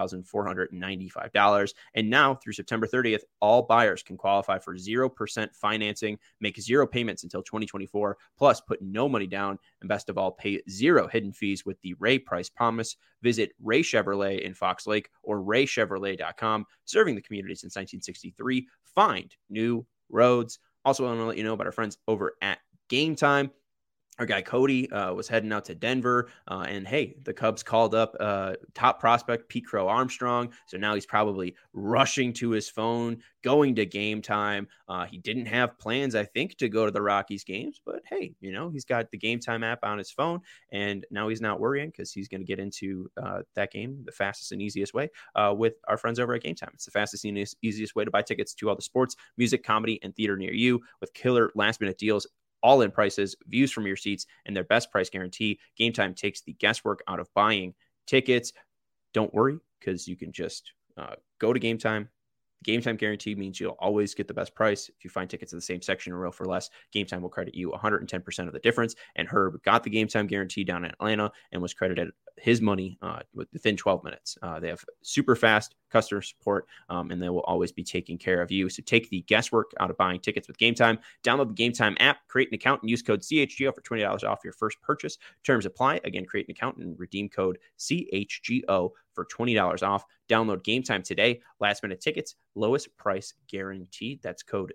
$21,495. And now through September 30th, all buyers can qualify for 0% financing, make 0 payments until 2024, plus put no money down, and best of all, pay 0 hidden fees with the Ray Price Promise. Visit Ray Chevrolet in Fox Lake or raychevrolet.com, serving the community since 1963. Find new roads. Also, I want to let you know about our friends over at Game Time. our guy Cody was heading out to Denver, and hey, the Cubs called up top prospect Pete Crow Armstrong. So now he's probably rushing to his phone, going to Game Time. He didn't have plans, I think, to go to the Rockies games, but hey, he's got the Game Time app on his phone, and now he's not worrying because he's going to get into that game the fastest and easiest way with our friends over at Game Time. It's the fastest and easiest way to buy tickets to all the sports, music, comedy, and theater near you with killer last-minute deals, all-in prices, views from your seats, and their best price guarantee. Game Time takes the guesswork out of buying tickets. Don't worry, because you can just go to Game Time. Game Time guarantee means you'll always get the best price. If you find tickets in the same section in a row for less, Game Time will credit you 110% of the difference. And Herb got the Game Time guarantee down in Atlanta and was credited his money within 12 minutes. They have super fast customer support, and they will always be taking care of you. So take the guesswork out of buying tickets with Game Time. Download the Game Time app, create an account, and use code CHGO for $20 off your first purchase. Terms apply. Again, create an account and redeem code CHGO for $20 off. Download Game Time today. Last minute tickets, lowest price guaranteed. That's code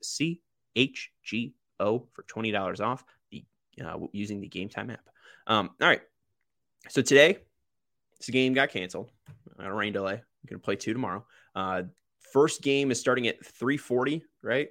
CHGO for $20 off using the Game Time app. All right. So today, this game got canceled. A rain delay. I'm going to play 2 tomorrow. First game is starting at 3:40, right?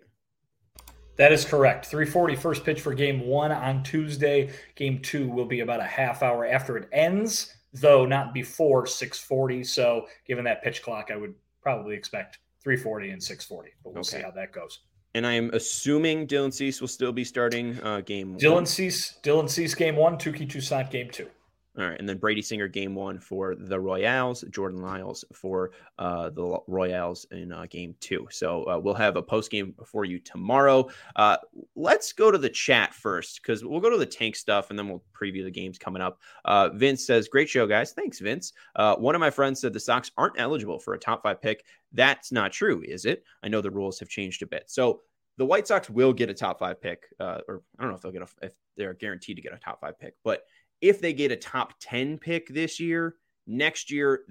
That is correct. 3:40 first pitch for game 1 on Tuesday. Game 2 will be about a half hour after it ends, though not before 6:40. So given that pitch clock, I would probably expect 3:40 and 6:40, but we'll see how that goes. And I'm assuming Dylan Cease will still be starting game 1. Dylan Cease game 1, Touki Toussaint game 2. All right, and then Brady Singer game 1 for the Royals, Jordan Lyles for the Royals in game 2. So we'll have a post game for you tomorrow. Let's go to the chat first, because we'll go to the tank stuff and then we'll preview the games coming up. Vince says, "Great show, guys." Thanks, Vince. One of my friends said the Sox aren't eligible for a top 5 pick. That's not true, is it? I know the rules have changed a bit. So the White Sox will get a top 5 pick, or I don't know if they'll get if they're guaranteed to get a top 5 pick, but if they get a top 10 pick this year, next year,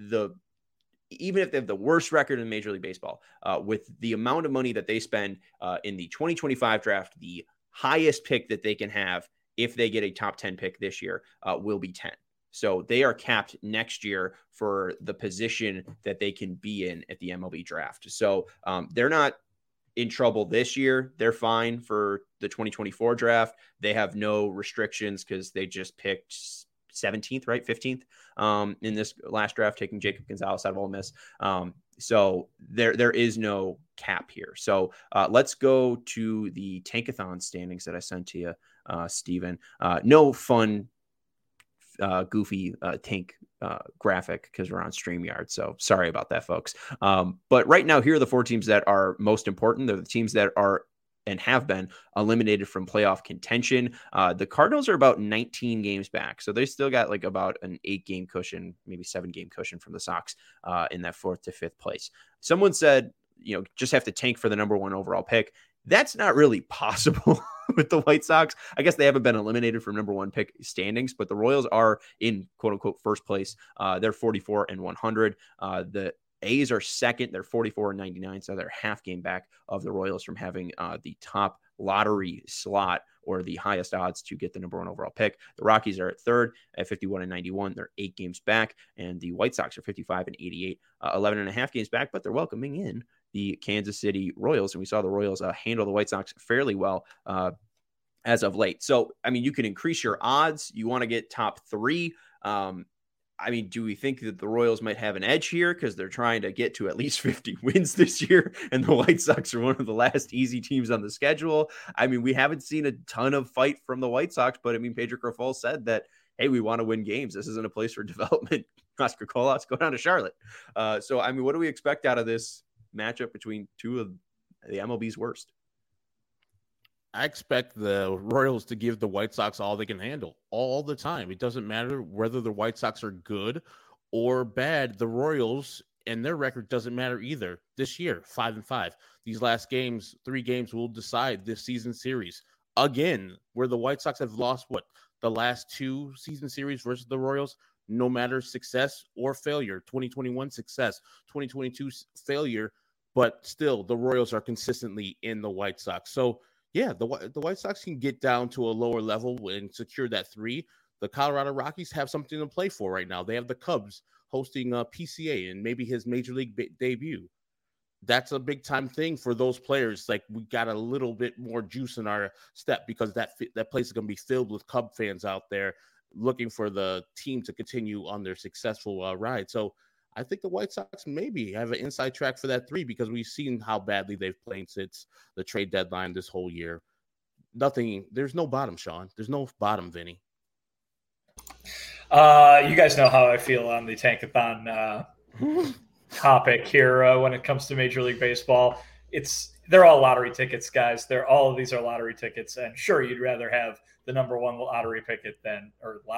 even if they have the worst record in Major League Baseball, with the amount of money that they spend in the 2025 draft, the highest pick that they can have if they get a top 10 pick this year will be 10. So they are capped next year for the position that they can be in at the MLB draft. So they're not in trouble this year. They're fine for the 2024 draft. They have no restrictions because they just picked 17th, right? 15th in this last draft, taking Jacob Gonzalez out of Ole Miss. So there is no cap here. So let's go to the Tankathon standings that I sent to you, Steven. No fun, goofy tank graphic because we're on StreamYard. So sorry about that, folks. But right now, here are the 4 teams that are most important. They're the teams that are and have been eliminated from playoff contention. The Cardinals are about 19 games back. So they still got like about an 8-game cushion, maybe 7-game cushion from the Sox in that 4th to 5th place. Someone said, just have to tank for the number 1 overall pick. That's not really possible with the White Sox. I guess they haven't been eliminated from number 1 pick standings, but the Royals are in quote unquote first place. They're 44-100. The A's are second. They're 44-99. So they're half game back of the Royals from having the top lottery slot or the highest odds to get the number 1 overall pick. The Rockies are at 3rd at 51-91. They're 8 games back. And the White Sox are 55-88, 11.5 games back, but they're welcoming in the Kansas City Royals. And we saw the Royals handle the White Sox fairly well as of late. So, I mean, you can increase your odds. You want to get top 3. Do we think that the Royals might have an edge here because they're trying to get to at least 50 wins this year, and the White Sox are one of the last easy teams on the schedule? We haven't seen a ton of fight from the White Sox, but Pedro Grifol said that, hey, we want to win games. This isn't a place for development. Oscar Colas, go down to Charlotte. What do we expect out of this matchup between 2 of the MLB's worst? I expect the Royals to give the White Sox all they can handle all the time. It doesn't matter whether the White Sox are good or bad. The Royals and their record doesn't matter either this year, 5-5. These last games, 3 games will decide this season series. Again, where the White Sox have lost the last 2 season series versus the Royals, no matter success or failure. 2021 success, 2022 failure, but still the Royals are consistently in the White Sox. So Yeah, the White Sox can get down to a lower level and secure that 3. The Colorado Rockies have something to play for right now. They have the Cubs hosting PCA and maybe his major league debut. That's a big time thing for those players. Like, we got a little bit more juice in our step because that place is going to be filled with Cub fans out there looking for the team to continue on their successful ride. So I think the White Sox maybe have an inside track for that 3 because we've seen how badly they've played since the trade deadline this whole year. There's no bottom, Sean. There's no bottom, Vinny. You guys know how I feel on the Tankathon topic here when it comes to Major League Baseball. They're all lottery tickets, guys. All of these are lottery tickets, and sure, you'd rather have the number 1 lottery ticket than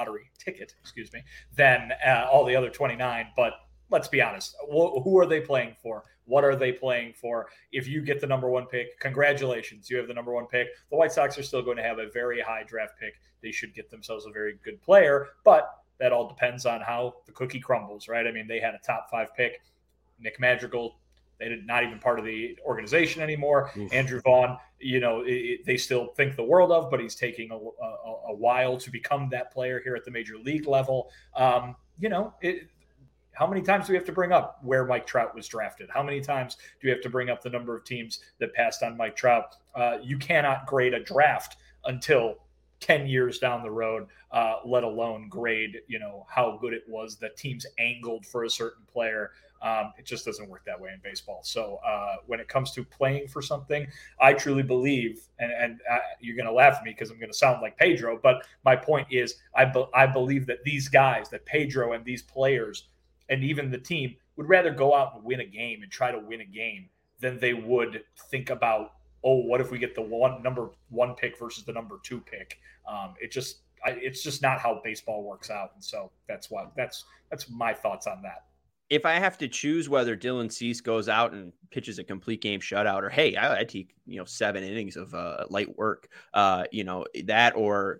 all the other 29. But let's be honest. Who are they playing for? What are they playing for? If you get the number 1 pick, congratulations. You have the number 1 pick. The White Sox are still going to have a very high draft pick. They should get themselves a very good player, but that all depends on how the cookie crumbles, right? I mean, they had a top 5 pick. Nick Madrigal, not even part of the organization anymore. Oof. Andrew Vaughn, they still think the world of, but he's taking a while to become that player here at the major league level. How many times do we have to bring up where Mike Trout was drafted? How many times do we have to bring up the number of teams that passed on Mike Trout? You cannot grade a draft until 10 years down the road, let alone grade, how good it was that teams angled for a certain player. It just doesn't work that way in baseball. So when it comes to playing for something, I truly believe, and you're going to laugh at me because I'm going to sound like Pedro, but my point is I believe that these guys, that Pedro and these players and even the team would rather go out and win a game and try to win a game than they would think about, what if we get the number 1 pick versus the number 2 pick? It's just not how baseball works out. And so that's my thoughts on that. If I have to choose whether Dylan Cease goes out and pitches a complete game shutout, or hey, I take 7 innings of light work, that, or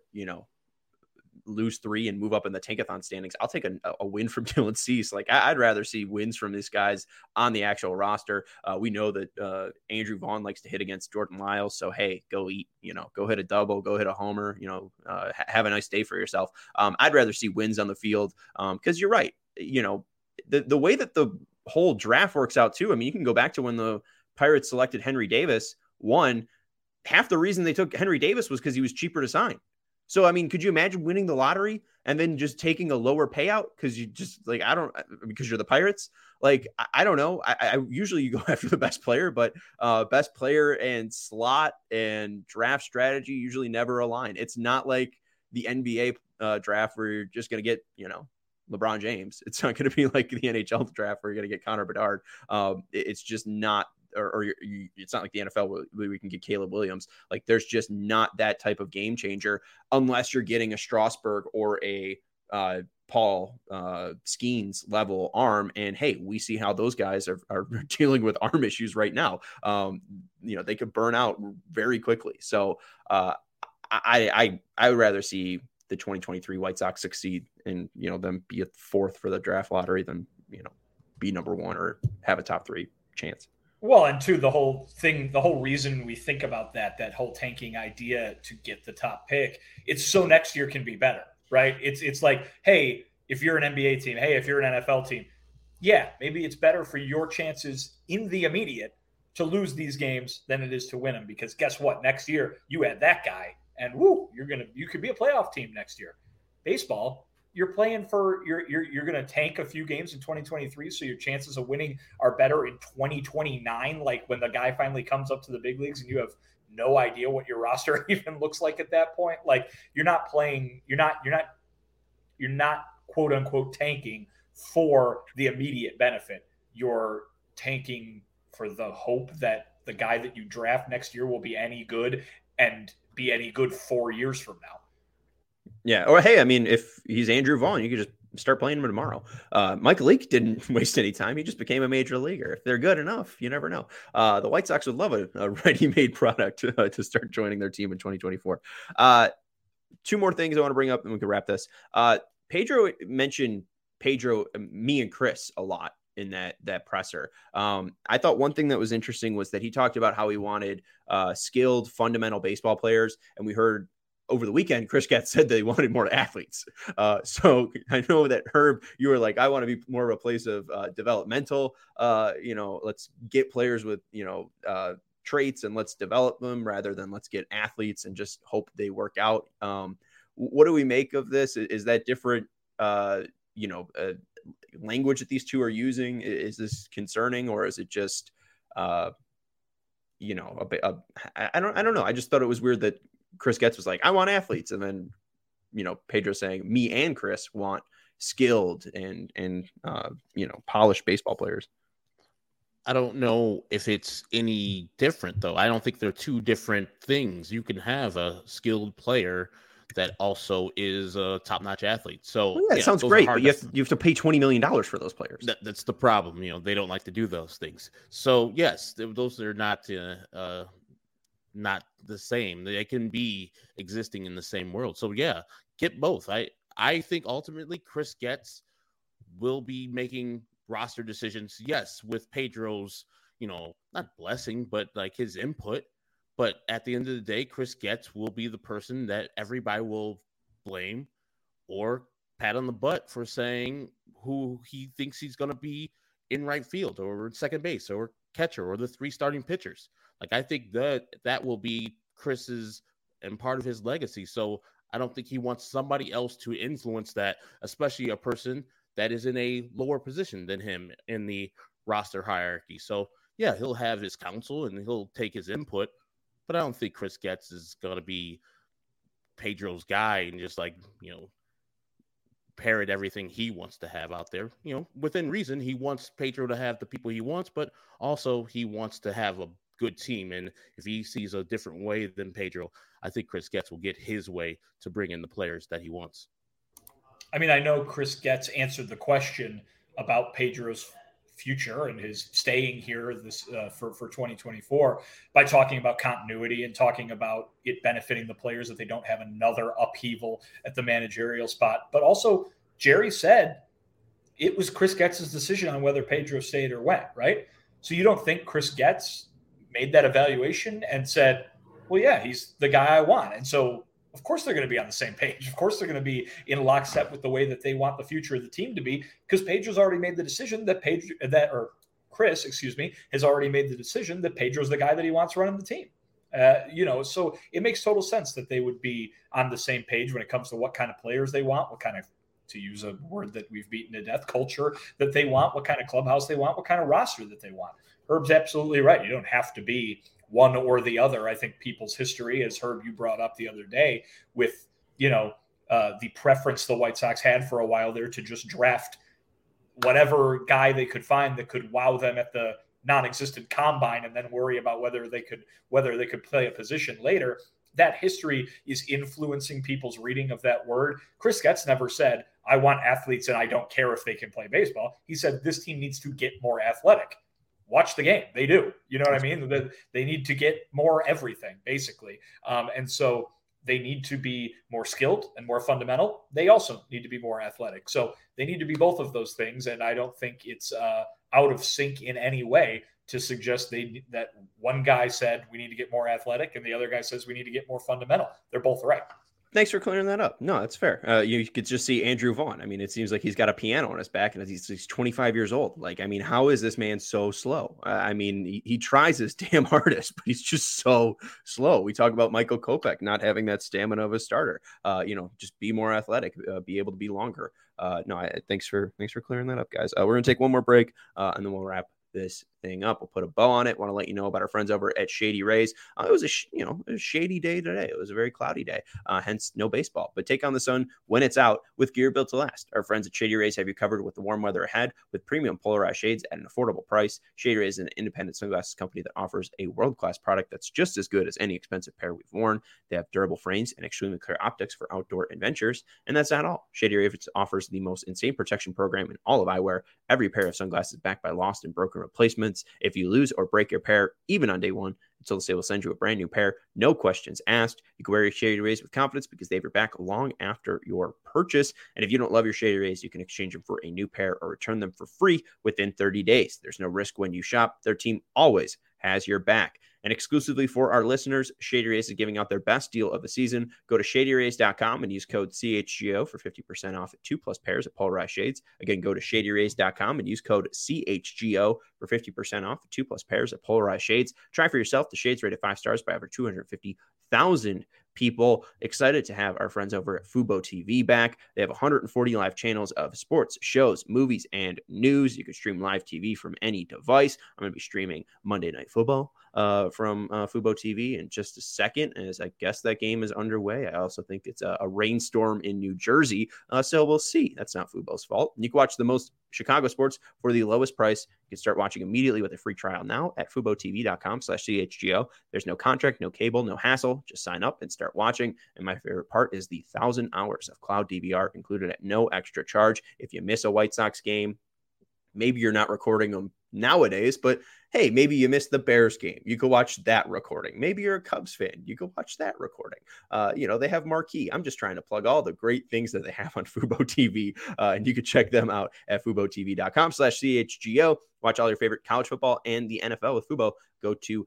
lose 3 and move up in the Tankathon standings, I'll take a win from Dylan Cease. Like, I'd rather see wins from these guys on the actual roster. We know that Andrew Vaughn likes to hit against Jordan Lyles. So, hey, go hit a double, go hit a homer, have a nice day for yourself. I'd rather see wins on the field because you're right. The way that the whole draft works out too. I mean, you can go back to when the Pirates selected Henry Davis. Half the reason they took Henry Davis was because he was cheaper to sign. So, I mean, could you imagine winning the lottery and then just taking a lower payout because you just because you're the Pirates? Like, I don't know. I usually you go after the best player, but best player and slot and draft strategy usually never align. It's not like the NBA draft where you're just going to get, LeBron James. It's not going to be like the NHL draft where you're going to get Connor Bedard. It's just not. It's not like the NFL where we can get Caleb Williams. Like, there's just not that type of game changer unless you're getting a Strasburg or a Paul Skeens level arm. And hey, we see how those guys are dealing with arm issues right now. They could burn out very quickly. So I would rather see the 2023 White Sox succeed and them be a 4th for the draft lottery than be number 1 or have a top 3 chance. Well, and two, the whole reason we think about that whole tanking idea to get the top pick, it's so next year can be better, right? It's like, hey, if you're an NBA team, hey, if you're an NFL team, yeah, maybe it's better for your chances in the immediate to lose these games than it is to win them, because guess what? Next year you add that guy and you could be a playoff team next year. Baseball, you're playing for you're going to tank a few games in 2023, so your chances of winning are better in 2029, like when the guy finally comes up to the big leagues and you have no idea what your roster even looks like at that point. Like, you're not quote unquote tanking for the immediate benefit. You're tanking for the hope that the guy that you draft next year will be any good and be any good 4 years from now. Yeah. Or, hey, I mean, if he's Andrew Vaughn, you could just start playing him tomorrow. Mike Leake didn't waste any time. He just became a major leaguer. If they're good enough, you never know. The White Sox would love a ready-made product to start joining their team in 2024. 2 more things I want to bring up and we can wrap this. Pedro mentioned me and Chris a lot in that presser. I thought one thing that was interesting was that he talked about how he wanted skilled fundamental baseball players. And we heard over the weekend, Chris Getz said that he wanted more athletes. So I know that Herb, you were like, I want to be more of a place of developmental, let's get players with, traits and let's develop them rather than let's get athletes and just hope they work out. What do we make of this? Is that different, language that these two are using? Is this concerning, or is it just, I don't know. I just thought it was weird that Chris Getz was like, I want athletes. And then, Pedro saying me and Chris want skilled and polished baseball players. I don't know if it's any different, though. I don't think they're two different things. You can have a skilled player that also is a top-notch athlete. So it sounds great, but you have to pay $20 million for those players. That's the problem. They don't like to do those things. So yes, those are not the same. They can be existing in the same world. So yeah, get both. I think ultimately Chris Getz will be making roster decisions, yes, with Pedro's, not blessing, but like his input. But at the end of the day, Chris Getz will be the person that everybody will blame or pat on the butt for saying who he thinks he's going to be in right field or second base or catcher or the three starting pitchers. Like, I think that will be Chris's and part of his legacy. So I don't think he wants somebody else to influence that, especially a person that is in a lower position than him in the roster hierarchy. So yeah, he'll have his counsel and he'll take his input, but I don't think Chris Getz is going to be Pedro's guy and just parrot everything he wants to have out there. Within reason, he wants Pedro to have the people he wants, but also he wants to have a good team. And if he sees a different way than Pedro, I think Chris Getz will get his way to bring in the players that he wants. I mean, I know Chris Getz answered the question about Pedro's future and his staying here for 2024 by talking about continuity and talking about it benefiting the players that they don't have another upheaval at the managerial spot. But also, Jerry said it was Chris Getz's decision on whether Pedro stayed or went, right? So you don't think Chris Getz made that evaluation and said, well, yeah, he's the guy I want. And so of course they're going to be on the same page. Of course they're going to be in lockstep with the way that they want the future of the team to be, because Pedro's already made the decision Chris has already made the decision that Pedro's the guy that he wants running the team. So it makes total sense that they would be on the same page when it comes to what kind of players they want, what kind of, to use a word that we've beaten to death, culture that they want, what kind of clubhouse they want, what kind of roster that they want. Herb's absolutely right. You don't have to be one or the other. I think people's history, as Herb, you brought up the other day, with, the preference the White Sox had for a while there to just draft whatever guy they could find that could wow them at the non-existent combine and then worry about whether they could play a position later. That history is influencing people's reading of that word. Chris Getz never said, I want athletes and I don't care if they can play baseball. He said this team needs to get more athletic. Watch the game. They do. You know what I mean? They need to get more everything, basically. And so they need to be more skilled and more fundamental. They also need to be more athletic. So they need to be both of those things. And I don't think it's out of sync in any way to suggest that one guy said we need to get more athletic and the other guy says we need to get more fundamental. They're both right. Thanks for clearing that up. No, that's fair. You could just see Andrew Vaughn. I mean, it seems like he's got a piano on his back and he's 25 years old. Like, I mean, how is this man so slow? I mean, he tries his damn hardest, but he's just so slow. We talk about Michael Kopech not having that stamina of a starter. Just be more athletic, be able to be longer. Thanks for clearing that up, guys. We're going to take one more break and then we'll wrap this thing up. We'll put a bow on it. Want to let you know about our friends over at Shady Rays. It was a shady day today. It was a very cloudy day, hence no baseball. But take on the sun when it's out with gear built to last. Our friends at Shady Rays have you covered with the warm weather ahead with premium polarized shades at an affordable price. Shady Rays is an independent sunglasses company that offers a world-class product that's just as good as any expensive pair we've worn. They have durable frames and extremely clear optics for outdoor adventures. And that's not all. Shady Rays offers the most insane protection program in all of eyewear. Every pair of sunglasses backed by lost and broken replacements. replacements if you lose or break your pair, even on day one. Until they will send you a brand new pair, no questions asked. You can wear your Shady Rays with confidence because they have your back long after your purchase. And if you don't love your Shady Rays, you can exchange them for a new pair or return them for free within 30 days. There's no risk when you shop. Their team always has your back. And exclusively for our listeners, Shady Rays is giving out their best deal of the season. Go to shadyrays.com and use code CHGO for 50% off 2+ pairs of polarized shades. Again, go to shadyrays.com and use code CHGO for 50% off 2+ pairs of polarized shades. Try for yourself. The shades rated 5 stars by over 250,000 people. Excited to have our friends over at Fubo TV back. They have 140 live channels of sports, shows, movies, and news. You can stream live TV from any device. I'm going to be streaming Monday Night Football from Fubo TV in just a second, as I guess that game is underway. I also think it's a rainstorm in New Jersey, so we'll see. That's not Fubo's fault. You can watch the most Chicago sports for the lowest price. You can start watching immediately with a free trial now at FuboTV.com/CHGO. There's no contract, no cable, no hassle. Just sign up and start watching. And my favorite part is the 1,000 hours of cloud DVR included at no extra charge. If you miss a White Sox game, maybe you're not recording them nowadays, but hey, maybe you missed the Bears game. You could watch that recording. Maybe you're a Cubs fan. You could watch that recording. They have Marquee. I'm just trying to plug all the great things that they have on Fubo TV. And you can check them out at FuboTV.com/CHGO. Watch all your favorite college football and the NFL with Fubo. Go to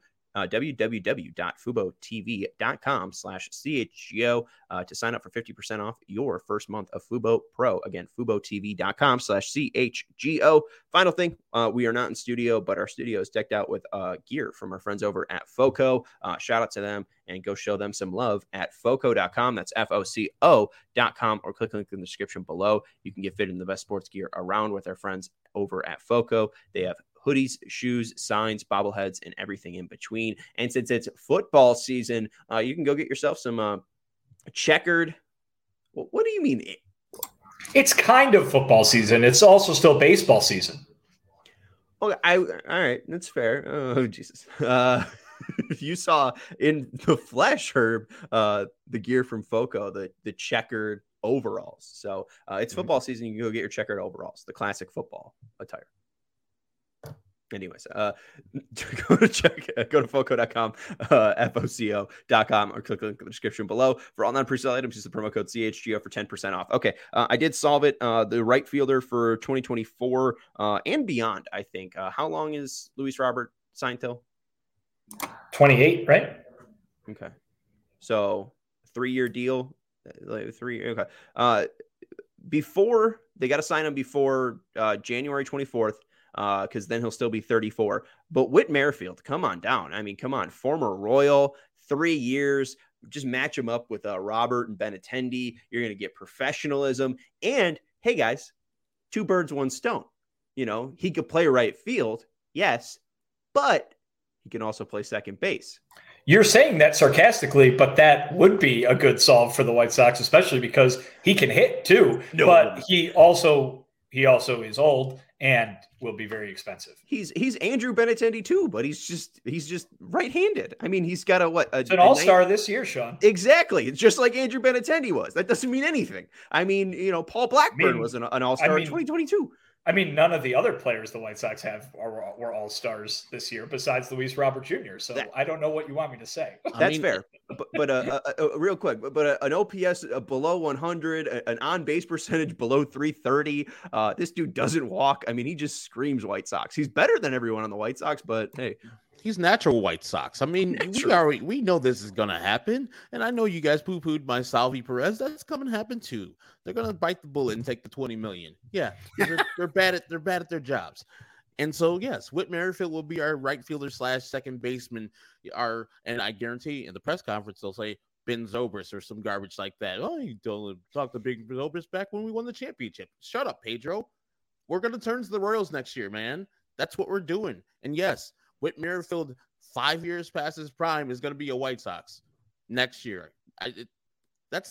www.FuboTV.com/CHGO to sign up for 50% off your first month of Fubo Pro. Again, FuboTV.com/CHGO. Final thing, we are not in studio, but our studio is decked out with gear from our friends over at FOCO. Shout out to them and go show them some love at FOCO.com. That's FOCO.com, or click the link in the description below. You can get fit in the best sports gear around with our friends over at FOCO. They have hoodies, shoes, signs, bobbleheads, and everything in between. And since it's football season, you can go get yourself some checkered. What do you mean? It's kind of football season. It's also still baseball season. Okay, all right, that's fair. Oh, Jesus. You saw in the flesh, Herb, the gear from FOCO, the checkered overalls. So it's football season. You can go get your checkered overalls, the classic football attire. Anyways, go to FOCO.com, FOCO.com, or click the link in the description below. For all non-presale items, use the promo code CHGO for 10% off. Okay, I did solve it. The right fielder for 2024 and beyond, I think. How long is Luis Robert signed till? 28, right? Okay. So 3-year deal. Okay. Before they got to sign him before January 24th. Because then he'll still be 34. But Whit Merrifield, come on down. I mean, come on. Former Royal, 3 years. Just match him up with Robert and Benintendi. You're going to get professionalism. And, hey, guys, 2 birds, 1 stone. He could play right field, yes, but he can also play second base. You're saying that sarcastically, but that would be a good solve for the White Sox, especially because he can hit, too. No. But he also is old and will be very expensive. He's Andrew Benintendi too, but he's just right-handed. I mean, he's got it's an all-star this year, Sean. Exactly. It's just like Andrew Benintendi was. That doesn't mean anything. I mean, Paul Blackburn was an all-star in 2022. I mean, none of the other players the White Sox have were all-stars this year besides Luis Robert Jr. So I don't know what you want me to say. That's fair. But real quick, but an OPS below 100, an on-base percentage below 330. This dude doesn't walk. I mean, he just screams White Sox. He's better than everyone on the White Sox, but hey. He's natural White Sox. I mean, we know this is going to happen. And I know you guys poo-pooed my Salvi Perez. That's coming to happen too. They're going to bite the bullet and take the $20 million. Yeah, they're bad at their jobs. And so, yes, Whit Merrifield will be our right fielder / second baseman. And I guarantee in the press conference, they'll say Ben Zobrist or some garbage like that. Oh, you don't talk to Big Zobrist back when we won the championship. Shut up, Pedro. We're going to turn to the Royals next year, man. That's what we're doing. And yes, Whit Merrifield, 5 years past his prime, is going to be a White Sox next year. That's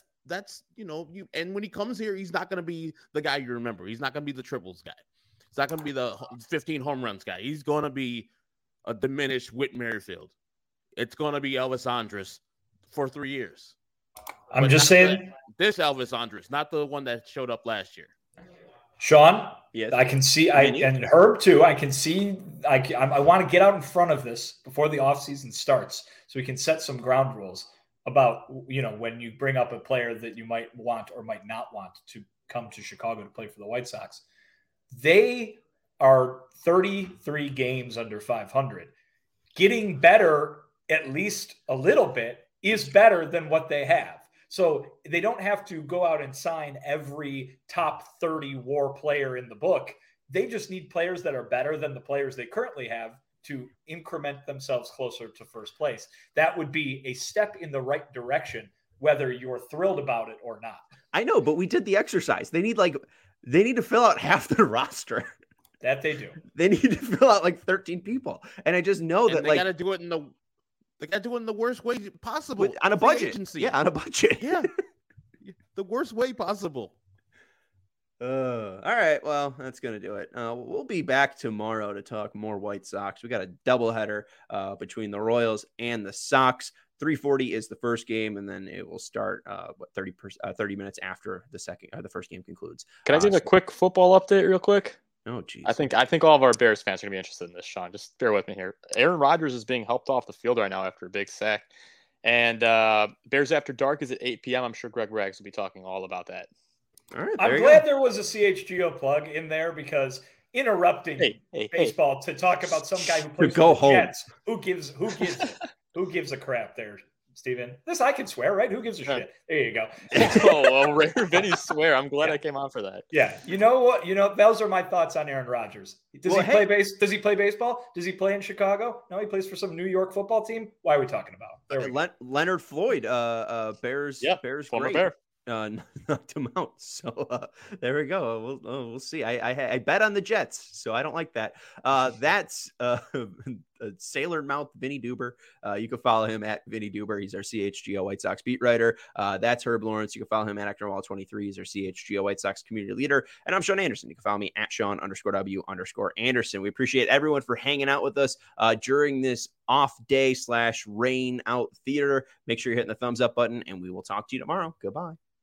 and when he comes here, he's not going to be the guy you remember. He's not going to be the triples guy. He's not going to be the 15 home runs guy. He's going to be a diminished Whit Merrifield. It's going to be Elvis Andrus for 3 years. I'm just saying this Elvis Andrus, not the one that showed up last year. Sean, Yes. I can see, and Herb too. I can see, I want to get out in front of this before the offseason starts so we can set some ground rules about, when you bring up a player that you might want or might not want to come to Chicago to play for the White Sox. They are 33 games under 500. Getting better, at least a little bit, is better than what they have. So they don't have to go out and sign every top 30 WAR player in the book. They just need players that are better than the players they currently have to increment themselves closer to first place. That would be a step in the right direction, whether you're thrilled about it or not. I know, but we did the exercise. They need to fill out half their roster. That they do. They need to fill out 13 people. And I just know that they got to do it in the worst way possible. On a budget. Yeah, on a budget. Yeah. The worst way possible. All right. Well, that's going to do it. We'll be back tomorrow to talk more White Sox. We got a doubleheader between the Royals and the Sox. 3:40 is the first game, and then it will start 30 minutes after the first game concludes. Can I give a quick football update real quick? Oh, geez. I think all of our Bears fans are going to be interested in this, Sean. Just bear with me here. Aaron Rodgers is being helped off the field right now after a big sack. And Bears After Dark is at 8 p.m. I'm sure Greg Rags will be talking all about that. All right, I'm glad there was a CHGO plug in there because interrupting baseball to talk about some guy who plays for the Jets, who gives a crap there, Steven? This I can swear, right? Who gives a shit? There you go. Rare Vinny swear. I'm glad I came on for that. Yeah. You know what? Those are my thoughts on Aaron Rodgers. Does he play baseball? Does he play in Chicago? No, he plays for some New York football team. Why are we talking about? Leonard Floyd, Bears. Yeah, Bears former great. Bear. Knocked him out. So there we go. We'll see. I bet on the Jets, so I don't like that. That's Sailor Mouth Vinny Duber. You can follow him at Vinny Duber. He's our CHGO White Sox beat writer. That's Herb Lawrence. You can follow him at ActorWall23. He's our CHGO White Sox community leader. And I'm Sean Anderson. You can follow me at Sean_W_Anderson. We appreciate everyone for hanging out with us during this off day /rain out theater. Make sure you're hitting the thumbs up button, and we will talk to you tomorrow. Goodbye.